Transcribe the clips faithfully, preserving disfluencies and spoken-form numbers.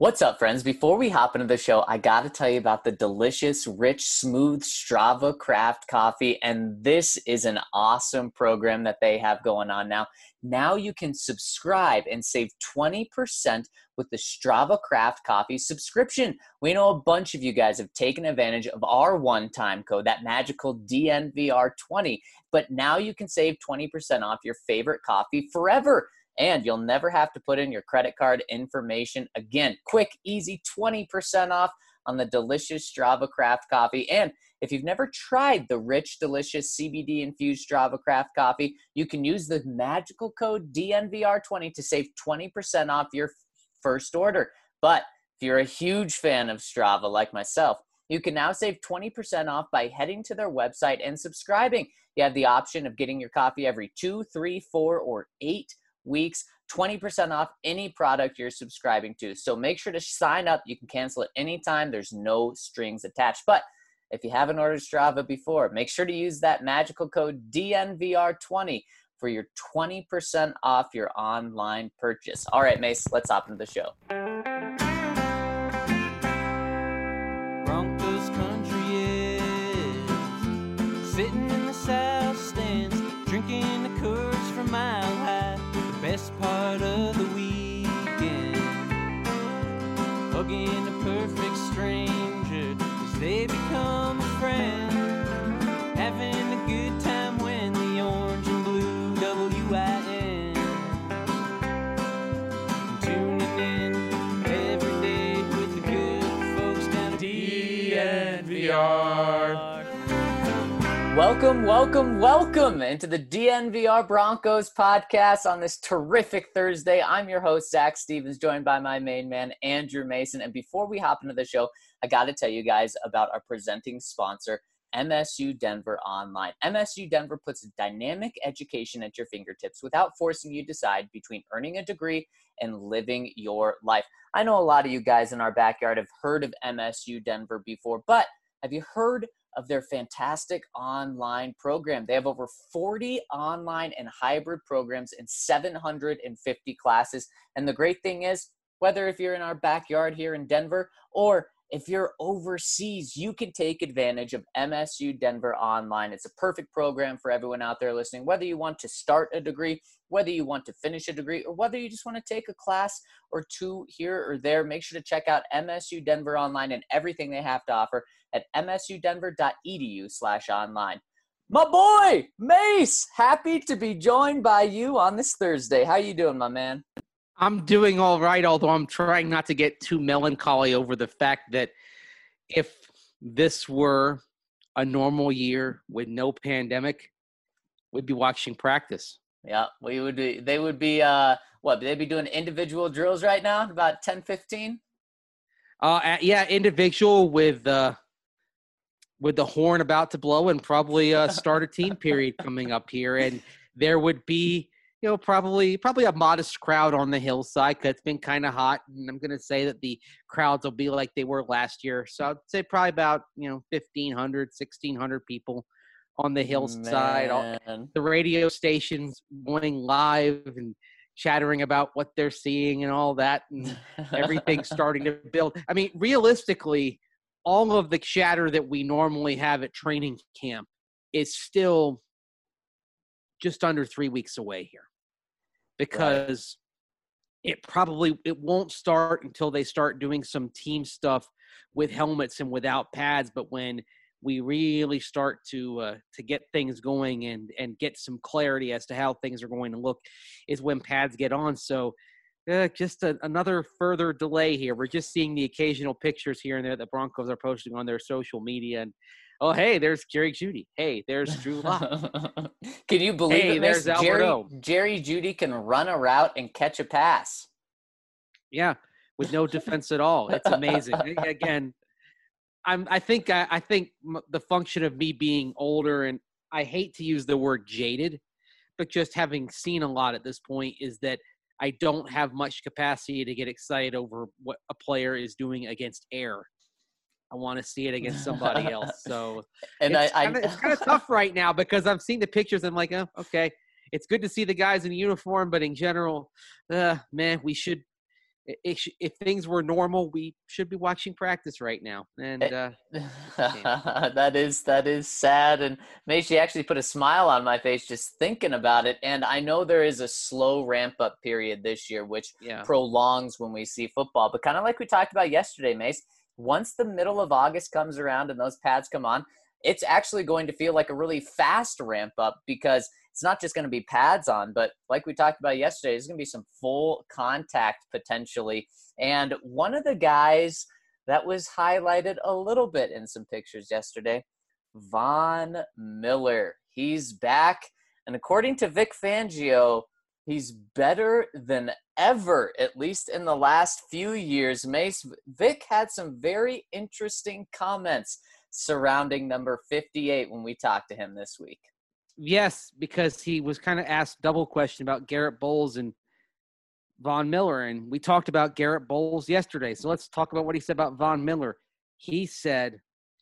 What's up, friends? Before we hop into the show, I got to tell you about the delicious, rich, smooth Strava Craft coffee. And this is an awesome program that they have going on now. Now you can subscribe and save twenty percent with the Strava Craft coffee subscription. We know a bunch of you guys have taken advantage of our one-time code, that magical D N V R twenty. But now you can save twenty percent off your favorite coffee forever. And you'll never have to put in your credit card information again. Quick, easy, twenty percent off on the delicious Strava Craft coffee. And if you've never tried the rich, delicious C B D-infused Strava Craft coffee, you can use the magical code D N V R twenty to save twenty percent off your first order. But if you're a huge fan of Strava like myself, you can now save twenty percent off by heading to their website and subscribing. You have the option of getting your coffee every two, three, four, or eight weeks, twenty percent off any product you're subscribing to. So make sure to sign up. You can cancel at any time. There's no strings attached. But if you haven't ordered Strava before, make sure to use that magical code D N V R twenty for your twenty percent off your online purchase. All right, Mace, let's hop into the show. Broncos country is sitting in the south stands, drinking the Coors from Mile High. Best part of the weekend, hugging a perfect stranger as they become a friend, having a good time when the orange and blue W I N, tuning in every day with the good folks down at D N V R. Welcome, welcome, welcome into the D N V R Broncos podcast on this terrific Thursday. I'm your host, Zach Stevens, joined by my main man, Andrew Mason. And before we hop into the show, I got to tell you guys about our presenting sponsor, M S U Denver Online. M S U Denver puts dynamic education at your fingertips without forcing you to decide between earning a degree and living your life. I know a lot of you guys in our backyard have heard of M S U Denver before, but have you heard of their fantastic online program? They have over forty online and hybrid programs in seven hundred fifty classes. And the great thing is, whether if you're in our backyard here in Denver or if you're overseas, you can take advantage of M S U Denver Online. It's a perfect program for everyone out there listening, whether you want to start a degree, whether you want to finish a degree, or whether you just want to take a class or two here or there. Make sure to check out M S U Denver Online and everything they have to offer at m s u denver dot e d u slash online. My boy, Mace, happy to be joined by you on this Thursday. How you doing, my man? I'm doing all right, although I'm trying not to get too melancholy over the fact that if this were a normal year with no pandemic, we'd be watching practice. Yeah, we would be. They would be, uh, what, they'd be doing individual drills right now, about ten, fifteen? Uh, yeah, individual with uh, with the horn about to blow and probably uh, start a team period coming up here. And there would be, you know, probably probably a modest crowd on the hillside because it's been kind of hot. And I'm going to say that the crowds will be like they were last year. So I'd say probably about, you know, fifteen hundred, sixteen hundred people on the hillside. All, the radio stations going live and chattering about what they're seeing and all that. And everything's starting to build. I mean, realistically, all of the chatter that we normally have at training camp is still just under three weeks away here. Because right. it probably it won't start until they start doing some team stuff with helmets and without pads. But when we really start to uh, to get things going and and get some clarity as to how things are going to look, is when pads get on. So uh, just a, another further delay here. We're just seeing the occasional pictures here and there that Broncos are posting on their social media, and oh, hey, there's Jerry Jeudy. Hey, there's Drew Lock. Can you believe hey, it? There's Jerry, Jerry Jeudy can run a route and catch a pass. Yeah, with no defense at all. It's amazing. Again, I'm. I think. I, I think the function of me being older, and I hate to use the word jaded, but just having seen a lot at this point, is that I don't have much capacity to get excited over what a player is doing against air. I want to see it against somebody else. So and it's I, kinda, I, it's kind of tough right now because I've seen the pictures. And I'm like, oh, okay, it's good to see the guys in uniform, but in general, uh, man, we should it, it sh- if things were normal, we should be watching practice right now. And uh, that is that is sad, and Macy actually put a smile on my face just thinking about it. And I know there is a slow ramp up period this year, which yeah, prolongs when we see football. But kind of like we talked about yesterday, Mace, once the middle of August comes around and those pads come on, it's actually going to feel like a really fast ramp up because it's not just going to be pads on, but like we talked about yesterday, there's going to be some full contact potentially. And one of the guys that was highlighted a little bit in some pictures yesterday, Von Miller. He's back. And according to Vic Fangio, he's better than ever, at least in the last few years. Mace, Vic had some very interesting comments surrounding number fifty-eight when we talked to him this week. yes, because he was kind of asked double question about Garrett Bowles and Von Miller, and we talked about Garrett Bowles yesterday. So let's talk about what he said about Von Miller. He said,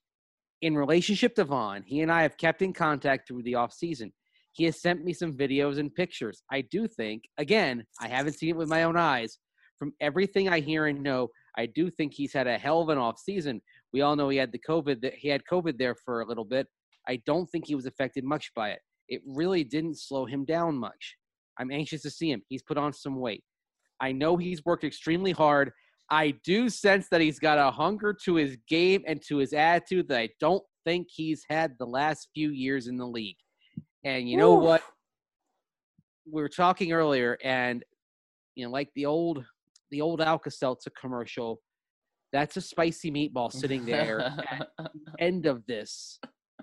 in relationship to Von, he and I have kept in contact through the offseason. He has sent me some videos and pictures. I do think, again, I haven't seen it with my own eyes. From everything I hear and know, I do think he's had a hell of an offseason. We all know he had the COVID. He had COVID there for a little bit. I don't think he was affected much by it. It really didn't slow him down much. I'm anxious to see him. He's put on some weight. I know he's worked extremely hard. I do sense that he's got a hunger to his game and to his attitude that I don't think he's had the last few years in the league. And you know Oof. what? We were talking earlier, and you know, like the old the old Alka-Seltzer commercial, that's a spicy meatball sitting there at the end of this.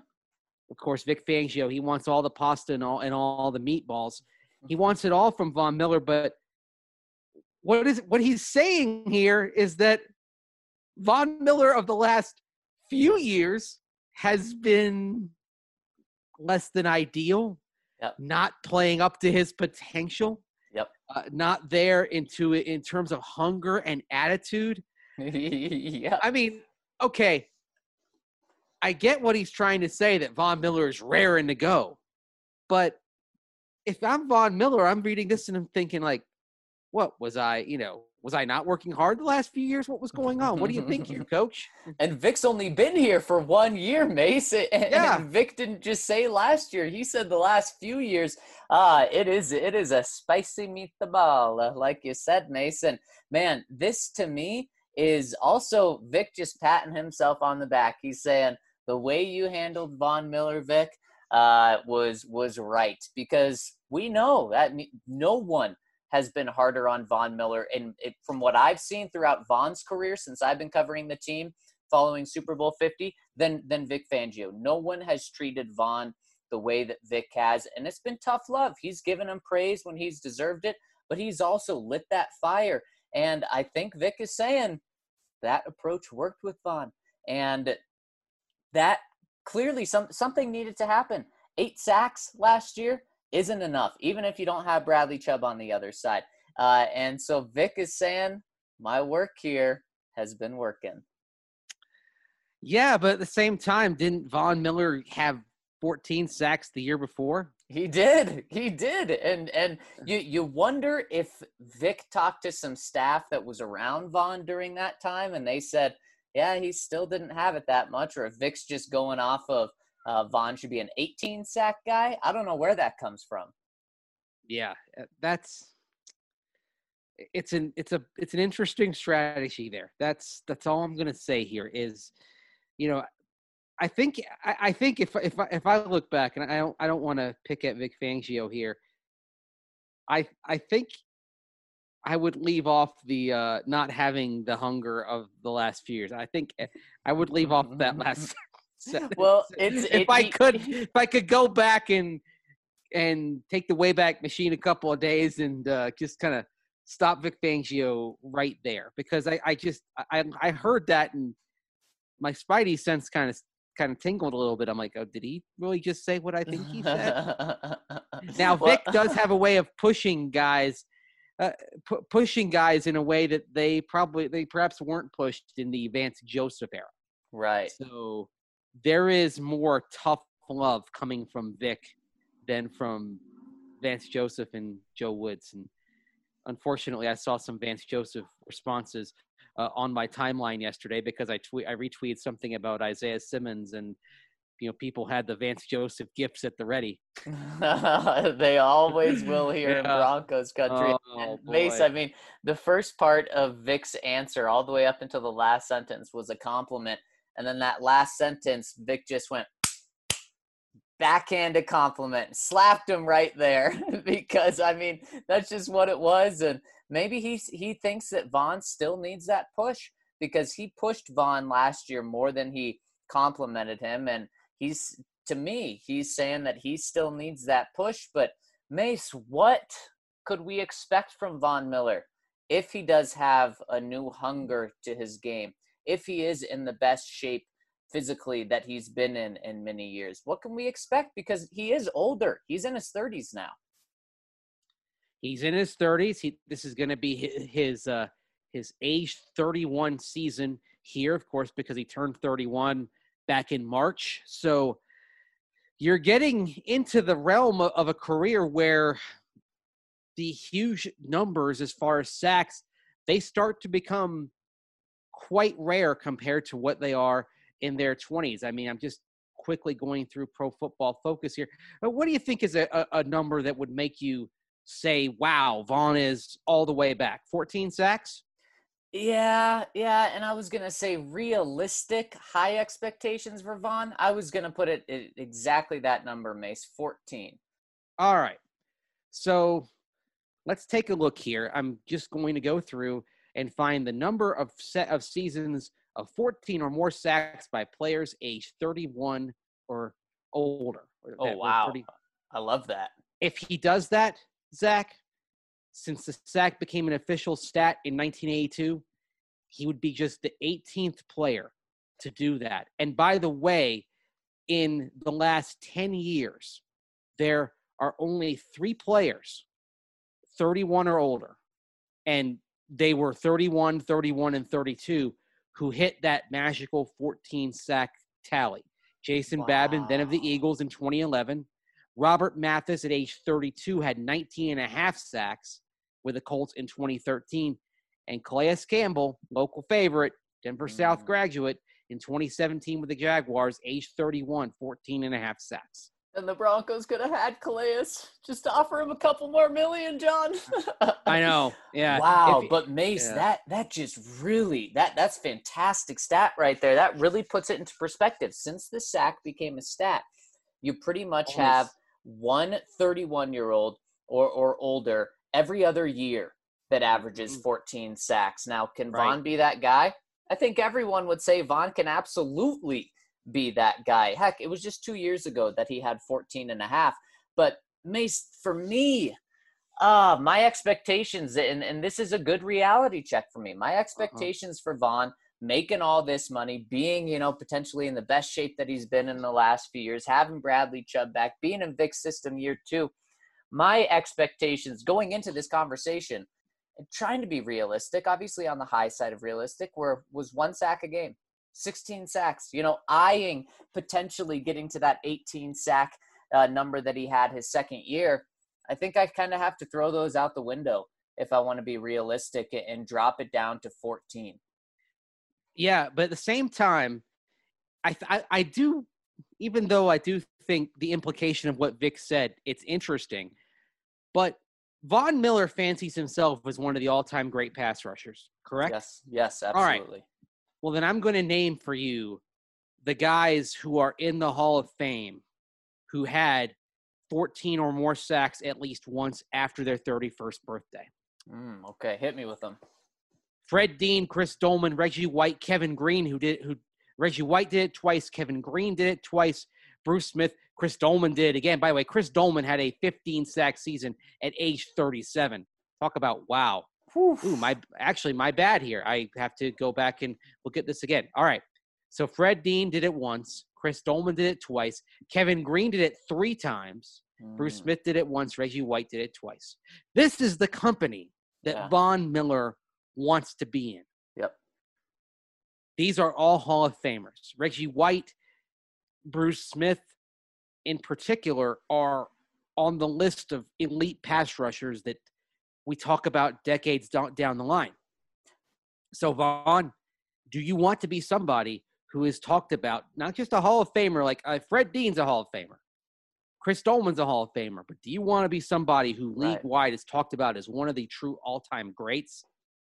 Of course, Vic Fangio, he wants all the pasta and all and all the meatballs. He wants it all from Von Miller, but what is what he's saying here is that Von Miller of the last few years has been less than ideal, Yep. not playing up to his potential, Yep. uh, not there into it in terms of hunger and attitude. Yeah. I mean, okay, I get what he's trying to say, that Von Miller is raring to go. But if I'm Von Miller, I'm reading this and I'm thinking, like, what was I, you know, was I not working hard the last few years? What was going on? What do you think here, coach? And Vic's only been here for one year, Mace. And, Yeah. and Vic didn't just say last year. He said the last few years. Uh, it is it is a spicy meatball, uh, like you said, Mason. Man, this to me is also Vic just patting himself on the back. He's saying the way you handled Von Miller, Vic, uh, was was right, because we know that no one has been harder on Von Miller. And it, from what I've seen throughout Von's career since I've been covering the team following Super Bowl fifty, than, than Vic Fangio. No one has treated Von the way that Vic has, and it's been tough love. He's given him praise when he's deserved it, but he's also lit that fire. And I think Vic is saying that approach worked with Von. And that clearly some, something needed to happen. Eight sacks last year isn't enough, even if you don't have Bradley Chubb on the other side. Uh, and so Vic is saying, my work here has been working. Yeah, but at the same time, didn't Von Miller have fourteen sacks the year before? He did. He did. And and you you wonder if Vic talked to some staff that was around Von during that time, and they said, yeah, he still didn't have it that much, or if Vic's just going off of Uh, Von should be an eighteen sack guy. I don't know where that comes from. Yeah, that's it's an it's a it's an interesting strategy there. That's that's all I'm gonna say here is, you know, I think I, I think if if I, if I look back, and I don't I don't want to pick at Vic Fangio here, I I think I would leave off the uh, not having the hunger of the last few years. I think I would leave off that last. Well, it's if it, I he, could, if I could go back and and take the Wayback Machine a couple of days and uh, just kind of stop Vic Fangio right there, because I, I just I I heard that and my spidey sense kind of kind of tingled a little bit. I'm like, oh, did he really just say what I think he said? Now Vic well, does have a way of pushing guys. Uh, pu- pushing guys in a way that they probably they perhaps weren't pushed in the Vance Joseph era. Right. So there is more tough love coming from Vic than from Vance Joseph and Joe Woods. And unfortunately, I saw some Vance Joseph responses uh, on my timeline yesterday because I tweet I retweeted something about Isaiah Simmons, and you know people had the Vance Joseph gifts at the ready. They always will here in Yeah. Broncos country. Oh And Mace, I boy. mean, the first part of Vic's answer, all the way up until the last sentence, was a compliment. And then that last sentence, Vic just went backhanded compliment, slapped him right there because, I mean, that's just what it was. And maybe he, he thinks that Von still needs that push because he pushed Von last year more than he complimented him. And he's, to me, he's saying that he still needs that push. But Mace, what could we expect from Von Miller if he does have a new hunger to his game, if he is in the best shape physically that he's been in in many years? What can we expect? Because he is older. He's in his thirties now. He's in his thirties. He, this is going to be his his, uh, his age thirty-one season here, of course, because he turned thirty-one back in March. So you're getting into the realm of, of a career where the huge numbers as far as sacks, they start to become quite rare compared to what they are in their twenties. I mean, I'm just quickly going through Pro Football Focus here. But what do you think is a, a, a number that would make you say, wow, Von is all the way back? fourteen sacks? Yeah, yeah, and I was going to say realistic high expectations for Von. I was going to put it at exactly that number, Mace, fourteen. All right. So let's take a look here. I'm just going to go through and find the number of set of seasons of fourteen or more sacks by players age thirty-one or older. Oh, wow. thirty I love that. If he does that, Zach, since the sack became an official stat in nineteen eighty-two, he would be just the eighteenth player to do that. And by the way, in the last ten years, there are only three players, thirty-one or older, and they were thirty-one, thirty-one, and thirty-two, who hit that magical fourteen sack tally. Jason Wow. Babin, then of the Eagles in twenty eleven. Robert Mathis at age thirty-two had nineteen and a half sacks with the Colts in twenty thirteen. And Calais Campbell, local favorite, Denver mm. South graduate, in twenty seventeen with the Jaguars, age thirty-one, fourteen and a half sacks. And the Broncos could have had Calais just to offer him a couple more million, John. I know. Yeah. Wow. If, but Mace, yeah. that that just really that that's fantastic stat right there. That really puts it into perspective. Since the sack became a stat, you pretty much Almost. have one thirty-one-year-old or or older every other year that averages fourteen sacks. Now, can Right. Von be that guy? I think everyone would say Von can absolutely be that guy. Heck, it was just two years ago that he had fourteen and a half. But Mace, for me, uh, my expectations, and, and this is a good reality check for me, my expectations uh-huh. for Von making all this money, being, you know, potentially in the best shape that he's been in the last few years, having Bradley Chubb back, being in Vic's system year two, my expectations going into this conversation, and trying to be realistic, obviously on the high side of realistic, were was one sack a game. sixteen sacks, you know, eyeing potentially getting to that eighteen sack uh, number that he had his second year. I think I kind of have to throw those out the window if I want to be realistic and drop it down to fourteen. Yeah, but at the same time, I, I I do, even though I do think the implication of what Vic said, it's interesting, but Von Miller fancies himself as one of the all-time great pass rushers, correct? Yes, yes, absolutely. All right. Well, then I'm going to name for you the guys who are in the Hall of Fame who had fourteen or more sacks at least once after their thirty-first birthday. Mm, okay, hit me with them. Fred Dean, Chris Dolman, Reggie White, Kevin Green, who did who Reggie White did it twice, Kevin Green did it twice, Bruce Smith, Chris Dolman did it again. By the way, Chris Dolman had a fifteen sack season at age thirty-seven. Talk about wow. Ooh, my actually my bad here. I have to go back and look at this again. All right. So Fred Dean did it once. Chris Dolman did it twice. Kevin Green did it three times. Mm. Bruce Smith did it once. Reggie White did it twice. This is the company that yeah. Von Miller wants to be in. Yep. These are all Hall of Famers. Reggie White, Bruce Smith in particular are on the list of elite pass rushers that we talk about decades down, down the line. So, Vaughn, do you want to be somebody who is talked about, not just a Hall of Famer, like uh, Fred Dean's a Hall of Famer, Chris Dolman's a Hall of Famer, but do you want to be somebody who league-wide right. is talked about as one of the true all-time greats?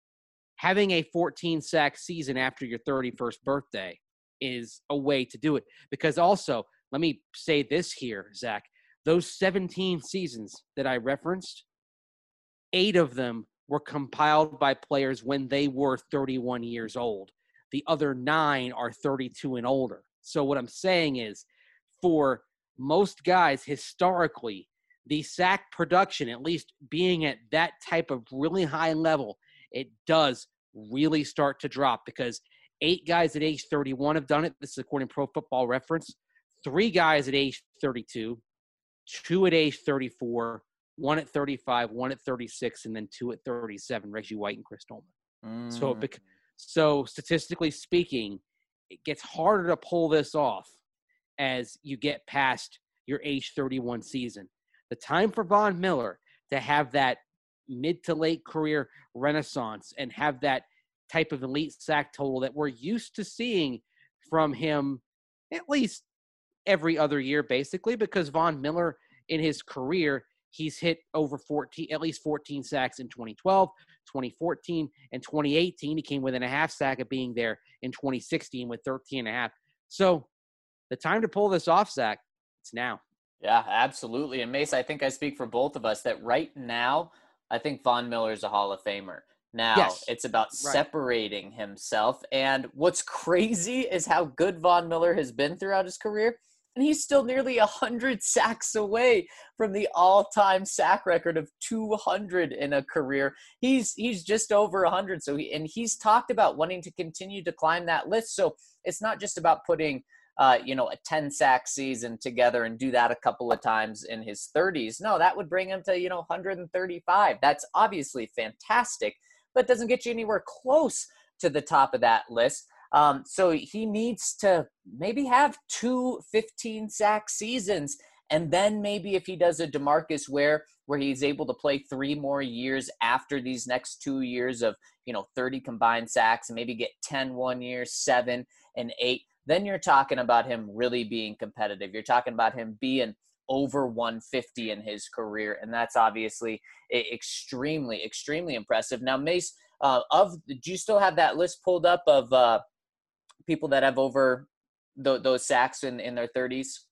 Having a fourteen-sack season after your thirty-first birthday is a way to do it. Because also, let me say this here, Zach, those seventeen seasons that I referenced, eight of them were compiled by players when they were thirty-one years old. The other nine are thirty-two and older. So what I'm saying is, for most guys historically, the sack production, at least being at that type of really high level, it does really start to drop because eight guys at age thirty-one have done it. This is according to Pro Football Reference. Three guys at age thirty-two, two at age thirty-four, one at thirty-five, one at thirty-six, and then two at thirty-seven, Reggie White and Chris Dolman. Mm. So, so statistically speaking, it gets harder to pull this off as you get past your age thirty-one season. The time for Von Miller to have that mid to late career renaissance and have that type of elite sack total that we're used to seeing from him at least every other year, basically, because Von Miller in his career, he's hit over fourteen, at least fourteen sacks in twenty twelve, twenty fourteen, and twenty eighteen. He came within a half sack of being there in twenty sixteen with thirteen and a half. So the time to pull this off, Zach, it's now. Yeah, absolutely. And Mace, I think I speak for both of us that right now, I think Von Miller is a Hall of Famer. Now, yes. It's about right. separating himself. And what's crazy is how good Von Miller has been throughout his career. And he's still nearly one hundred sacks away from the all-time sack record of two hundred in a career. He's he's just over one hundred. So he, and he's talked about wanting to continue to climb that list. So it's not just about putting uh, you know, a ten-sack season together and do that a couple of times in his thirties. No, that would bring him to, you know, one hundred thirty-five. That's obviously fantastic, but doesn't get you anywhere close to the top of that list. Um, so he needs to maybe have two fifteen-sack seasons, and then maybe if he does a DeMarcus Ware where he's able to play three more years after these next two years of, you know, thirty combined sacks and maybe get ten one year, seven and eight, then you're talking about him really being competitive. You're talking about him being over one fifty in his career, and that's obviously extremely, extremely impressive. Now, Mace, uh, of do you still have that list pulled up of uh, people that have over th- those sacks in, in their thirties?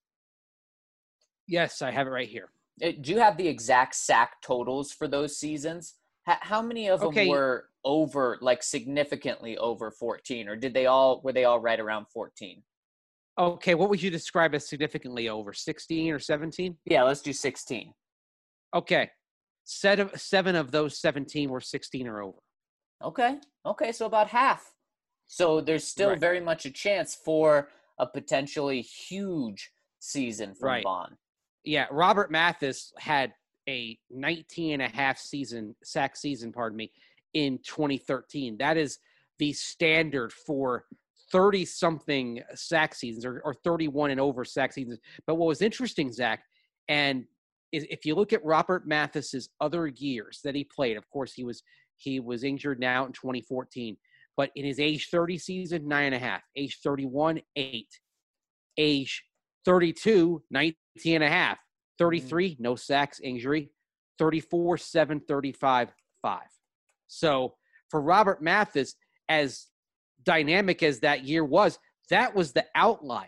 Yes, I have it right here. Do you have the exact sack totals for those seasons? H- how many of okay. them were over, like significantly over fourteen, or did they all, were they all right around fourteen? Okay, what would you describe as significantly over, sixteen or seventeen? Yeah, let's do sixteen. Okay, Set of, seven of those seventeen were sixteen or over. Okay, okay, so about half. So there's still right. very much a chance for a potentially huge season from right. Vaughn. Yeah, Robert Mathis had a nineteen and a half season, sack season, pardon me, in twenty thirteen. That is the standard for thirty-something sack seasons or, or thirty-one and over sack seasons. But what was interesting, Zach, and is if you look at Robert Mathis's other years that he played, of course, he was he was injured now in twenty fourteen. But in his age thirty season, nine and a half. Age thirty-one, eight. Age thirty-two, nineteen and a half. thirty-three, no sacks, injury. thirty-four, seven, thirty-five, five. So for Robert Mathis, as dynamic as that year was, that was the outlier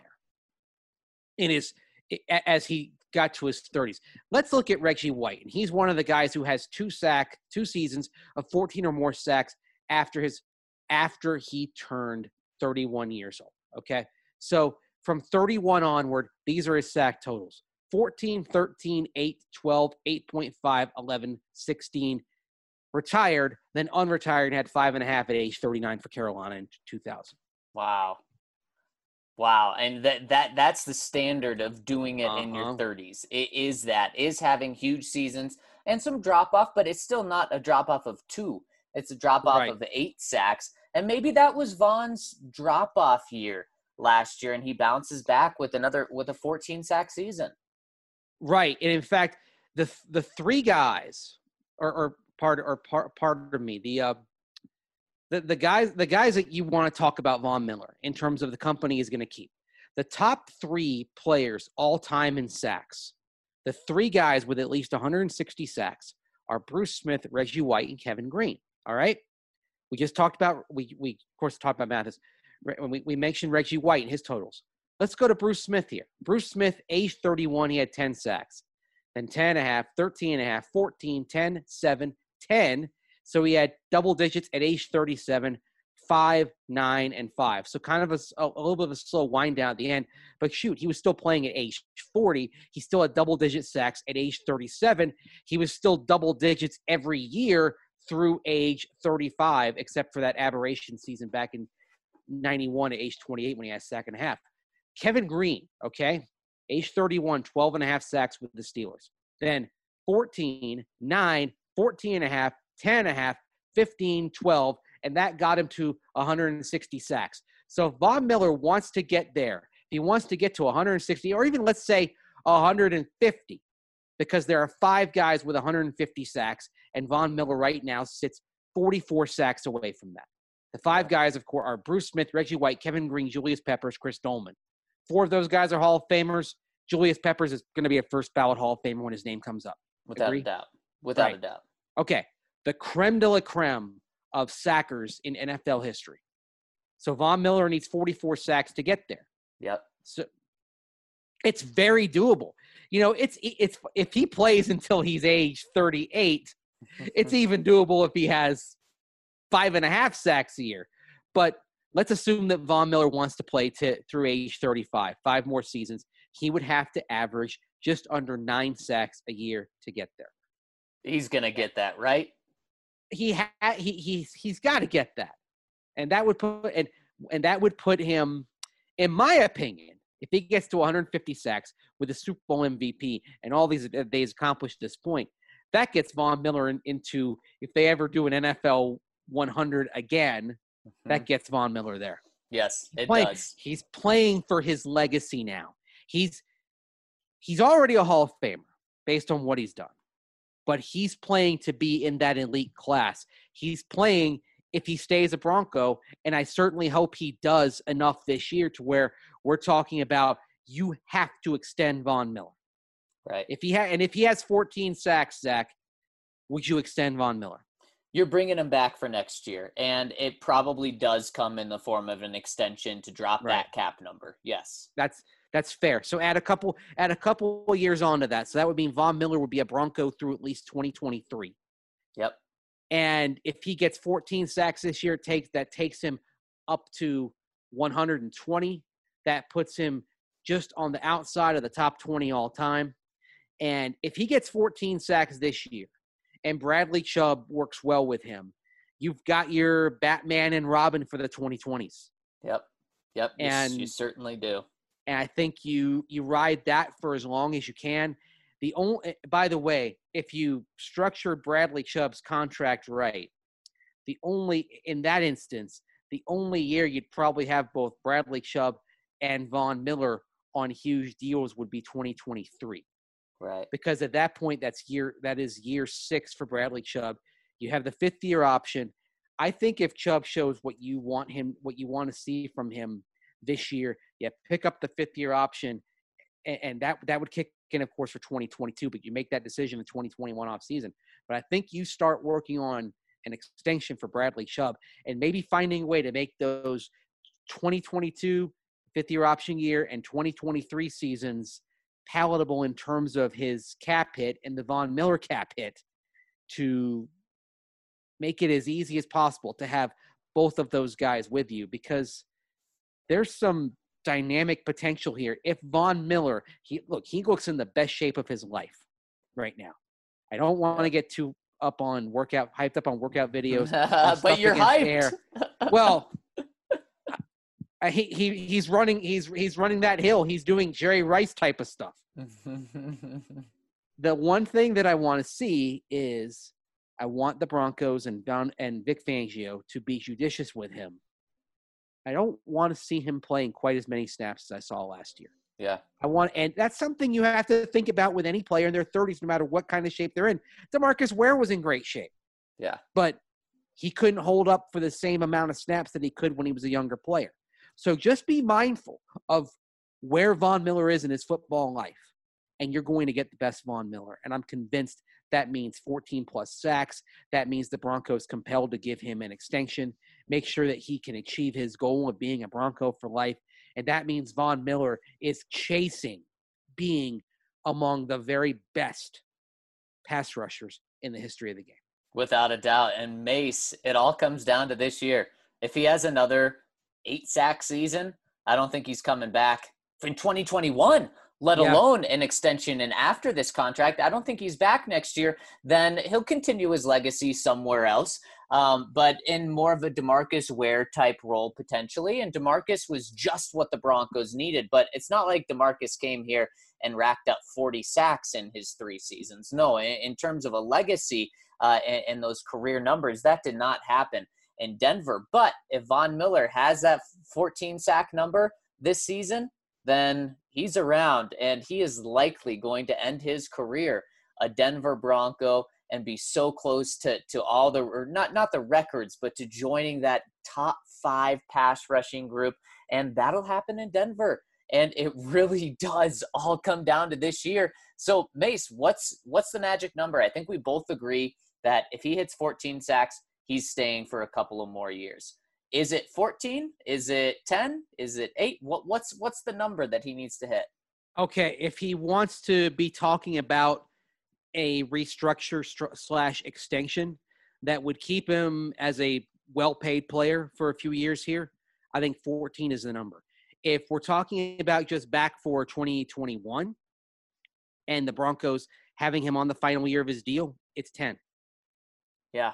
in his as he got to his thirties. Let's look at Reggie White, and he's one of the guys who has two sack, two seasons of fourteen or more sacks after his after he turned thirty-one years old. Okay, so from thirty-one onward, these are his sack totals: fourteen, thirteen, eight, twelve, eight point five, eleven, sixteen. Retired, then unretired, and had five and a half at age thirty-nine for Carolina in two thousand. Wow. Wow. And that that that's the standard of doing it uh-huh. in your thirties. It is that, is having huge seasons and some drop-off, but it's still not a drop-off of two. It's a drop-off right. of the eight sacks. And maybe that was Vaughn's drop-off year last year, and he bounces back with another with a fourteen-sack season. Right. And in fact, the the three guys – Or, or part or part part of me. The uh, the the guys the guys that you want to talk about Von Miller in terms of the company is going to keep. The top three players all time in sacks. The three guys with at least one hundred sixty sacks are Bruce Smith, Reggie White, and Kevin Green. All right. We just talked about we we of course talked about Mathis. When we, we mentioned Reggie White and his totals. Let's go to Bruce Smith here. Bruce Smith, age thirty-one, he had ten sacks. Then ten and a half, thirteen and a half, fourteen, ten, seven, ten. So he had double digits at age thirty-seven, five, nine, and five. So kind of a, a, a little bit of a slow wind down at the end. But shoot, he was still playing at age forty. He still had double-digit sacks at age thirty-seven. He was still double digits every year through age thirty-five, except for that aberration season back in ninety-one at age twenty-eight when he had a sack and a half. Kevin Green, okay, age thirty-one, twelve and a half sacks with the Steelers. Then fourteen, nine, fourteen and a half, ten and a half, fifteen, twelve, and that got him to one hundred sixty sacks. So if Von Miller wants to get there, if he wants to get to one hundred sixty, or even let's say one hundred fifty, because there are five guys with one hundred fifty sacks, and Von Miller right now sits forty-four sacks away from that. The five guys, of course, are Bruce Smith, Reggie White, Kevin Green, Julius Peppers, Chris Dolman. Four of those guys are Hall of Famers. Julius Peppers is going to be a first ballot Hall of Famer when his name comes up. Without Agree? a doubt. Without Right. a doubt. Okay. The creme de la creme of sackers in N F L history. So Von Miller needs forty-four sacks to get there. Yep. So it's very doable. You know, it's it's if he plays until he's age thirty-eight, it's even doable if he has five and a half sacks a year. But let's assume that Von Miller wants to play to, through age thirty-five, five more seasons. He would have to average just under nine sacks a year to get there. He's going to get that, right? He ha- he he's he's got to get that, and that would put and and that would put him, in my opinion, if he gets to one hundred fifty sacks with the Super Bowl M V P and all these that he's accomplished at this point, that gets Von Miller in, into if they ever do an N F L one hundred again, mm-hmm. that gets Von Miller there. Yes, he's it playing, does. He's playing for his legacy now. He's he's already a Hall of Famer based on what he's done. But he's playing to be in that elite class. He's playing if he stays a Bronco, and I certainly hope he does enough this year to where we're talking about you have to extend Von Miller. Right. If he ha- and if he has fourteen sacks, Zach, would you extend Von Miller? You're bringing him back for next year, and it probably does come in the form of an extension to drop Right. that cap number. Yes. That's That's fair. So add a couple add a couple of years onto that. So that would mean Von Miller would be a Bronco through at least twenty twenty-three. Yep. And if he gets fourteen sacks this year, takes that takes him up to one hundred twenty. That puts him just on the outside of the top twenty all time. And if he gets fourteen sacks this year and Bradley Chubb works well with him, you've got your Batman and Robin for the twenty twenties. Yep. Yep. You, And you certainly do. And I think you you ride that for as long as you can. The only, by the way, if you structured Bradley Chubb's contract right, the only in that instance, the only year you'd probably have both Bradley Chubb and Von Miller on huge deals would be twenty twenty-three. Right. Because at that point, that's year that is year six for Bradley Chubb. You have the fifth year option. I think if Chubb shows what you want him, what you want to see from him this year, you pick up the fifth year option, and, and that that would kick in, of course, for twenty twenty-two. But you make that decision in twenty twenty-one off season. But I think you start working on an extension for Bradley Chubb and maybe finding a way to make those twenty twenty-two fifth year option year and twenty twenty-three seasons palatable in terms of his cap hit and the Von Miller cap hit, to make it as easy as possible to have both of those guys with you, because there's some dynamic potential here. If Von Miller, he look, he looks in the best shape of his life right now. I don't want to get too up on workout, hyped up on workout videos. But you're hyped. Air. Well, I, he he he's running he's he's running that hill. He's doing Jerry Rice type of stuff. The one thing that I want to see is I want the Broncos and Don and Vic Fangio to be judicious with him. I don't want to see him playing quite as many snaps as I saw last year. Yeah. I want, and that's something you have to think about with any player in their thirties, no matter what kind of shape they're in. DeMarcus Ware was in great shape. Yeah. But he couldn't hold up for the same amount of snaps that he could when he was a younger player. So just be mindful of where Von Miller is in his football life, and you're going to get the best Von Miller. And I'm convinced that means fourteen plus sacks. That means the Broncos compelled to give him an extension, make sure that he can achieve his goal of being a Bronco for life. And that means Von Miller is chasing being among the very best pass rushers in the history of the game. Without a doubt. And Mace, it all comes down to this year. If he has another eight sack season, I don't think he's coming back in twenty twenty-one, let Yeah. alone an extension. And after this contract, I don't think he's back next year. Then he'll continue his legacy somewhere else, um, but in more of a DeMarcus Ware type role potentially. And DeMarcus was just what the Broncos needed. But it's not like DeMarcus came here and racked up forty sacks in his three seasons. No, in, in terms of a legacy uh, and, and those career numbers, that did not happen in Denver. But if Von Miller has that fourteen sack number this season, then he's around, and he is likely going to end his career a Denver Bronco and be so close to to all the, or not not the records, but to joining that top five pass rushing group. And that'll happen in Denver. And it really does all come down to this year. So Mace, what's what's the magic number? I think we both agree that if he hits fourteen sacks, he's staying for a couple of more years. Is it fourteen? Is it ten? Is it eight? What, what's what's the number that he needs to hit? Okay, if he wants to be talking about a restructure stru- slash extension that would keep him as a well-paid player for a few years here, I think fourteen is the number. If we're talking about just back for twenty twenty-one and the Broncos having him on the final year of his deal, it's ten. Yeah.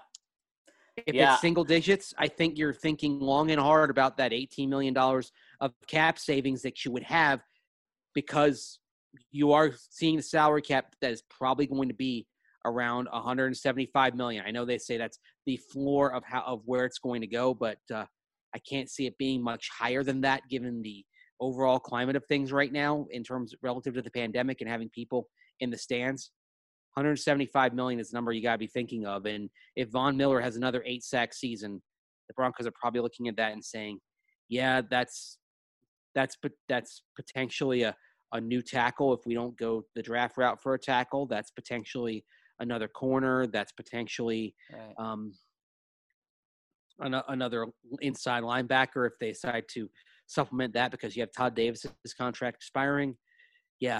If Yeah. it's single digits, I think you're thinking long and hard about that eighteen million dollars of cap savings that you would have, because you are seeing the salary cap that is probably going to be around one hundred seventy-five million dollars. I know they say that's the floor of how of where it's going to go, but uh, I can't see it being much higher than that given the overall climate of things right now in terms relative to the pandemic and having people in the stands. one hundred seventy-five million dollars is the number you got to be thinking of. And if Von Miller has another eight sack season, the Broncos are probably looking at that and saying, yeah, that's that's that's potentially a, a new tackle. If we don't go the draft route for a tackle, that's potentially another corner. That's potentially Right. um, an, another inside linebacker if they decide to supplement that because you have Todd Davis's contract expiring. Yeah.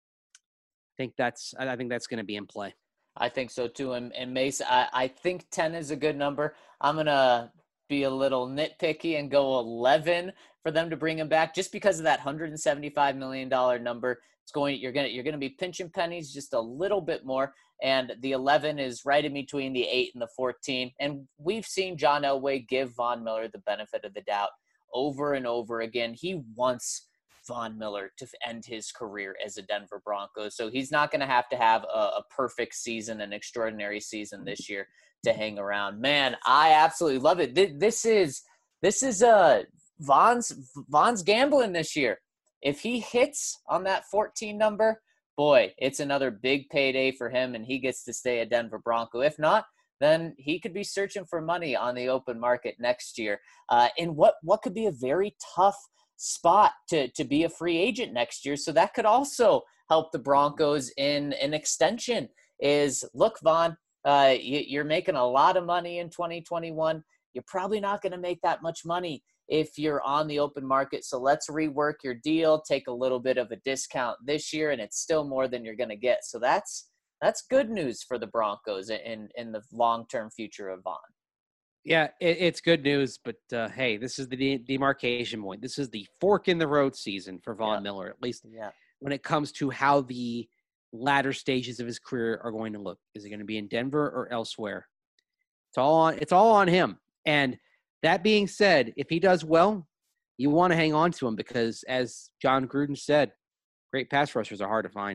I think that's I think that's going to be in play. I think so too. And, and Mace, I, I think ten is a good number. I'm going to be a little nitpicky and go eleven for them to bring him back just because of that one hundred seventy-five million dollars number. It's going, you're going to, you're going to be pinching pennies just a little bit more. And the eleven is right in between the eight and the fourteen. And we've seen John Elway give Von Miller the benefit of the doubt over and over again. He wants Von Miller to end his career as a Denver Bronco. So he's not going to have to have a, a perfect season, an extraordinary season this year to hang around. Man, I absolutely love it. This is, this is uh, Von's, Von's gambling this year. If he hits on that fourteen number, boy, it's another big payday for him and he gets to stay a Denver Bronco. If not, then he could be searching for money on the open market next year. Uh, in what, what could be a very tough spot to to be a free agent next year. So that could also help the Broncos in an extension is, look, Von, uh, you, you're making a lot of money in twenty twenty-one. You're probably not going to make that much money if you're on the open market. So let's rework your deal, take a little bit of a discount this year, and it's still more than you're going to get. So that's that's good news for the Broncos in, in the long-term future of Von. Yeah, it, it's good news, but uh, hey, this is the de- demarcation point. This is the fork in the road season for Von Yeah. Miller, at least Yeah. when it comes to how the latter stages of his career are going to look. Is it going to be in Denver or elsewhere? It's all on. It's all on him. And that being said, if he does well, you want to hang on to him because, as John Gruden said, great pass rushers are hard to find.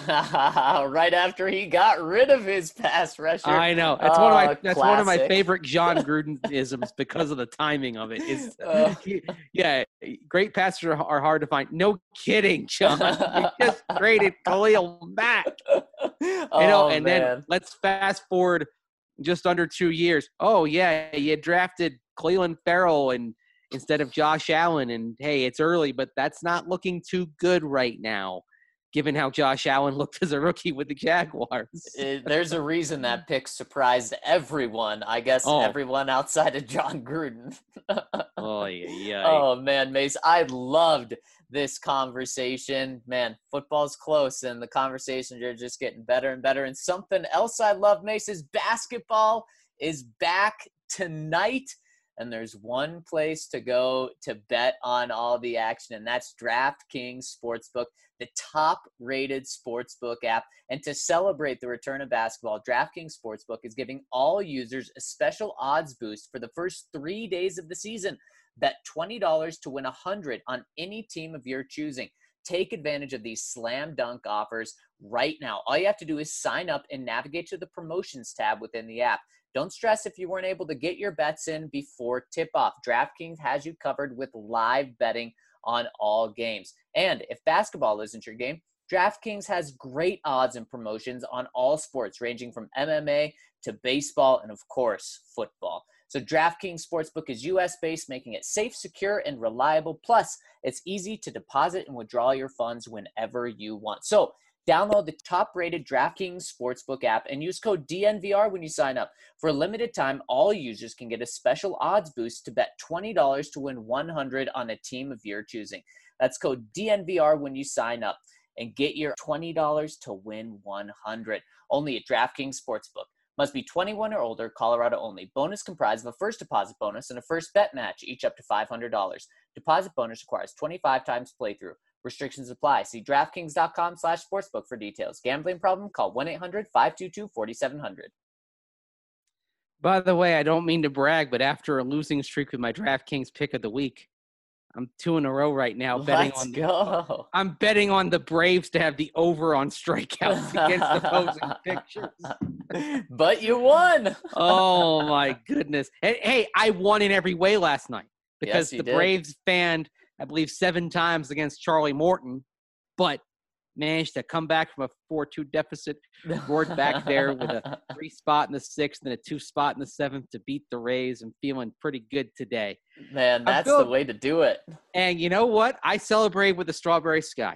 Right after he got rid of his pass rusher. I know. That's one of my Oh, that's one of my classic. favorite John Grudenisms because of the timing of it. Is Oh. yeah, great passers are, are hard to find. No kidding, John. You just traded Khalil Mack. Oh, You know, and man. then let's fast forward just under two years. Oh, yeah, you drafted Cleveland Farrell and instead of Josh Allen. And, hey, it's early, but that's not looking too good right now, given how Josh Allen looked as a rookie with the Jaguars. It, there's a reason that pick surprised everyone. I guess Oh. everyone outside of John Gruden. Oh, yeah, yeah. Oh, man, Mace, I loved this conversation. Man, football's close, and the conversations are just getting better and better. And something else I love, Mace, is basketball is back tonight. And there's one place to go to bet on all the action, and that's DraftKings Sportsbook, the top-rated sportsbook app. And to celebrate the return of basketball, DraftKings Sportsbook is giving all users a special odds boost for the first three days of the season. Bet twenty dollars to win one hundred dollars on any team of your choosing. Take advantage of these slam dunk offers right now. All you have to do is sign up and navigate to the promotions tab within the app. Don't stress if you weren't able to get your bets in before tip-off. DraftKings has you covered with live betting on all games. And if basketball isn't your game, DraftKings has great odds and promotions on all sports, ranging from M M A to baseball and, of course, football. So DraftKings Sportsbook is U S-based, making it safe, secure, and reliable. Plus, it's easy to deposit and withdraw your funds whenever you want. So download the top-rated DraftKings Sportsbook app and use code D N V R when you sign up. For a limited time, all users can get a special odds boost to bet twenty dollars to win one hundred dollars on a team of your choosing. That's code D N V R when you sign up and get your twenty dollars to win one hundred dollars. Only at DraftKings Sportsbook. Must be twenty-one or older, Colorado only. Bonus comprised of a first deposit bonus and a first bet match, each up to five hundred dollars. Deposit bonus requires twenty-five times playthrough. Restrictions apply. See DraftKings.com slash sportsbook for details. Gambling problem? Call one eight hundred five two two four seven zero zero. By the way, I don't mean to brag, but after a losing streak with my DraftKings pick of the week, I'm two in a row right now betting Let's on the, go. I'm betting on the Braves to have the over on strikeouts against opposing pitchers. But you won. Oh my goodness. Hey, hey, I won in every way last night because Yes, you the did. Braves fanned, I believe, seven times against Charlie Morton, but managed to come back from a four two deficit, roared back there with a three spot in the sixth and a two spot in the seventh to beat the Rays. I'm feeling pretty good today. Man, that's feel- the way to do it. And you know what? I celebrate with the Strawberry Sky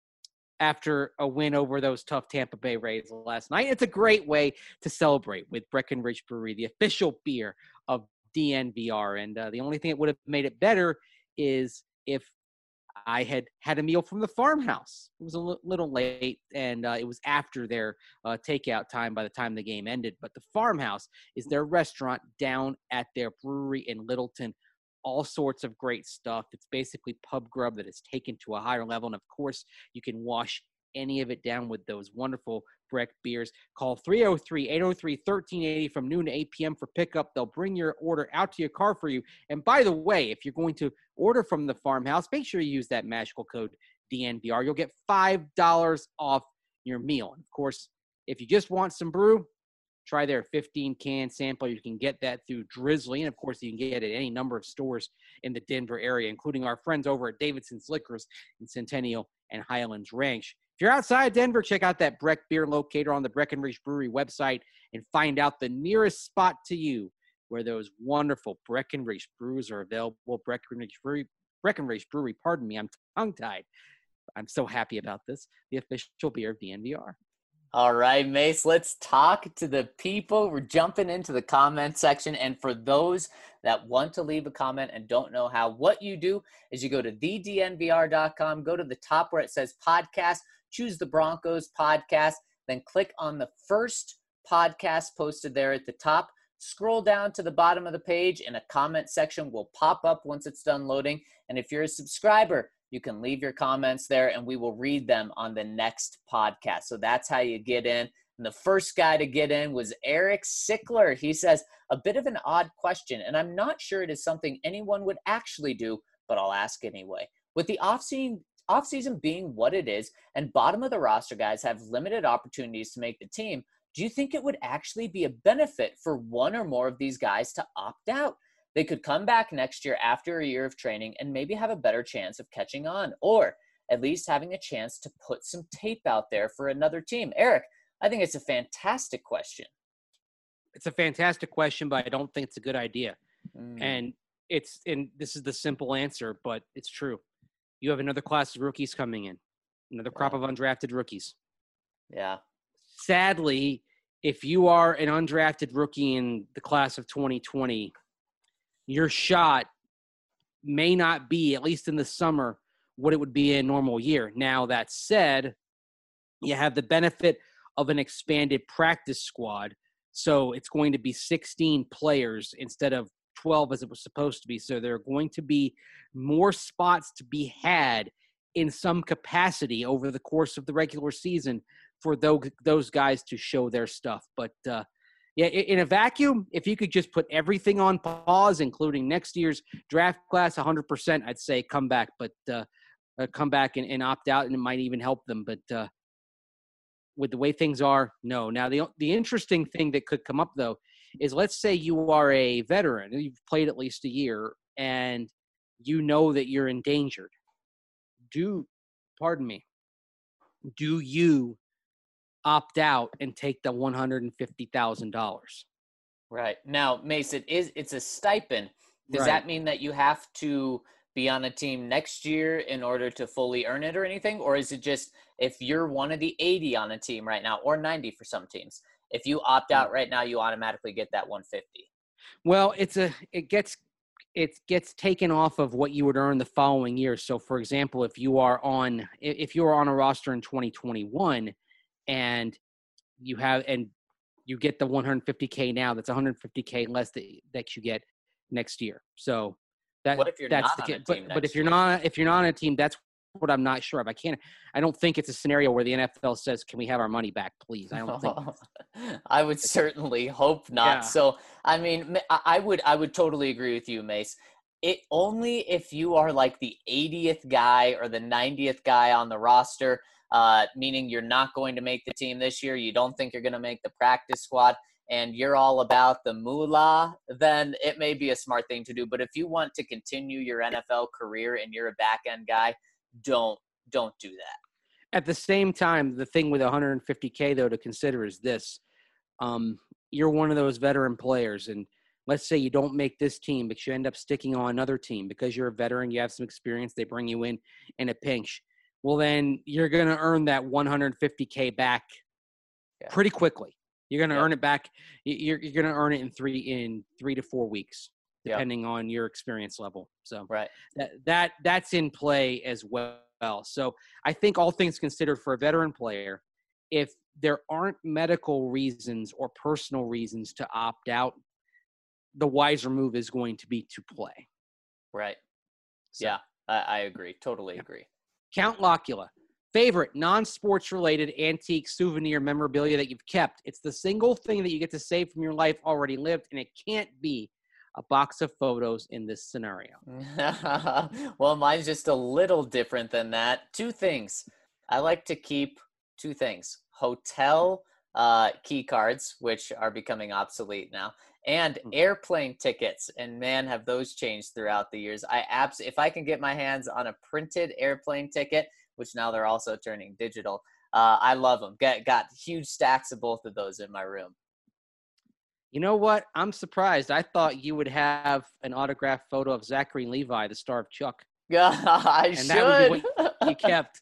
after a win over those tough Tampa Bay Rays last night. It's a great way to celebrate with Breckenridge Brewery, the official beer of D N V R. And uh, the only thing that would have made it better is if I had had a meal from the farmhouse. It was a l- little late, and uh, it was after their uh, takeout time by the time the game ended. But the farmhouse is their restaurant down at their brewery in Littleton. All sorts of great stuff. It's basically pub grub that is taken to a higher level. And, of course, you can wash any of it down with those wonderful Breck beers. Call three oh three, eight oh three, one three eight oh from noon to eight p.m. for pickup. They'll bring your order out to your car for you. And by the way, if you're going to order from the farmhouse, make sure you use that magical code D N V R. You'll get five dollars off your meal. And of course, if you just want some brew, try their fifteen can sample. You can get that through Drizzly. And of course, you can get it at any number of stores in the Denver area, including our friends over at Davidson's Liquors in Centennial and Highlands Ranch. If you're outside Denver, check out that Breck Beer Locator on the Breckenridge Brewery website and find out the nearest spot to you where those wonderful Breckenridge brews are available. Breckenridge Brewery, Breckenridge Brewery, pardon me, I'm tongue-tied. I'm so happy about this. The official beer of D N V R. All right, Mace, let's talk to the people. We're jumping into the comment section. And for those that want to leave a comment and don't know how, what you do is you go to the D N V R dot com, go to the top where it says podcast, choose the Broncos podcast, then click on the first podcast posted there at the top. Scroll down to the bottom of the page and a comment section will pop up once it's done loading. And if you're a subscriber, you can leave your comments there and we will read them on the next podcast. So that's how you get in. And the first guy to get in was Eric Sickler. He says, a bit of an odd question, and I'm not sure it is something anyone would actually do, but I'll ask anyway. With the offseason, offseason being what it is and bottom of the roster guys have limited opportunities to make the team, do you think it would actually be a benefit for one or more of these guys to opt out? They could come back next year after a year of training and maybe have a better chance of catching on, or at least having a chance to put some tape out there for another team. Eric, I think it's a fantastic question. It's a fantastic question, but I don't think it's a good idea. Mm. And it's and this is the simple answer, but it's true. You have another class of rookies coming in, another crop Yeah. of undrafted rookies. Yeah. Sadly, if you are an undrafted rookie in the class of twenty twenty, your shot may not be, at least in the summer, what it would be in a normal year. Now, that said, you have the benefit of an expanded practice squad. So it's going to be sixteen players instead of twelve as it was supposed to be. So there are going to be more spots to be had in some capacity over the course of the regular season for those, those guys to show their stuff. But, uh, yeah, in a vacuum, if you could just put everything on pause, including next year's draft class, one hundred percent, I'd say come back. But uh, uh, come back and, and opt out, and it might even help them. But uh, with the way things are, no. Now, the the interesting thing that could come up, though, is let's say you are a veteran, you've played at least a year, and you know that you're endangered. Do, pardon me, do you opt out and take the one hundred fifty thousand dollars? Right. Now, Mason, is it's a stipend. Does Right. that mean that you have to be on a team next year in order to fully earn it or anything? Or is it just if you're one of the eighty on a team right now, or ninety for some teams, if you opt out right now, you automatically get that one hundred fifty? Well, it's a it gets it gets taken off of what you would earn the following year. So, for example, if you are on if you are on a roster in twenty twenty-one and you have and you get the one hundred fifty K now, that's one hundred fifty K less that, that you get next year. So that What if you're that's not the on ca- a team but, but next if you're year? not if you're not on a team, that's what I'm not sure of. I can't I don't think it's a scenario where the N F L says, "Can we have our money back, please?" I don't think I would certainly hope not. Yeah. So, I mean, Ma- I I would I would totally agree with you, Mace. It only if you are like the eightieth guy or the ninetieth guy on the roster, uh, meaning you're not going to make the team this year, you don't think you're going to make the practice squad, and you're all about the moolah, then it may be a smart thing to do. But if you want to continue your N F L career and you're a back end guy, don't don't do that. At the same time, the thing with one hundred fifty K, though, to consider is this. Um, you're one of those veteran players, and let's say you don't make this team, but you end up sticking on another team because you're a veteran, you have some experience, they bring you in in a pinch. Well, then you're going to earn that one hundred fifty K back Yeah. pretty quickly. You're going to Yep. earn it back. You're, you're going to earn it in three in three to four weeks, Yep. depending on your experience level. So Right. that that that's in play as well. So I think all things considered for a veteran player, if there aren't medical reasons or personal reasons to opt out, the wiser move is going to be to play. Right. So, Yeah, I, I agree. Totally Yeah. agree. Count Locula, favorite non-sports related antique souvenir memorabilia that you've kept. It's the single thing that you get to save from your life already lived, and it can't be a box of photos in this scenario. Well, mine's just a little different than that. Two things. I like to keep two things. Hotel uh, key cards, which are becoming obsolete now, and Mhm. airplane tickets. And man, have those changed throughout the years. I abs- if I can get my hands on a printed airplane ticket, which now they're also turning digital, uh, I love them. Got, got huge stacks of both of those in my room. You know what? I'm surprised. I thought you would have an autographed photo of Zachary Levi, the star of Chuck. I And should. that would be you kept.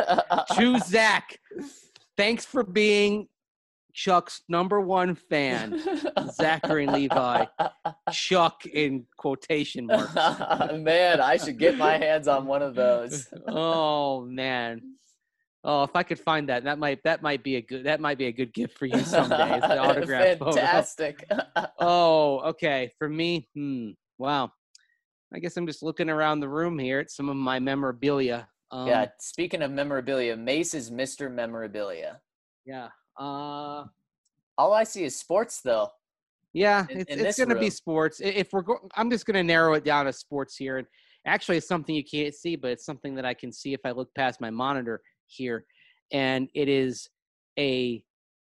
To Zach, thanks for being Chuck's number one fan, Zachary Levi. Chuck in quotation marks. Man, I should get my hands on one of those. Oh man. Oh, if I could find that, that might that might be a good that might be a good gift for you someday. It's the autograph photo. Fantastic. Oh, okay. For me, hmm. Wow. I guess I'm just looking around the room here at some of my memorabilia. Um, Yeah, speaking of memorabilia, Mace is Mister Memorabilia. Yeah. Uh, All I see is sports, though. yeah. In- It's in it's this going to be room. sports. I- If we're go- I'm just going to narrow it down to sports here, and actually, it's something you can't see, but it's something that I can see if I look past my monitor here, and it is a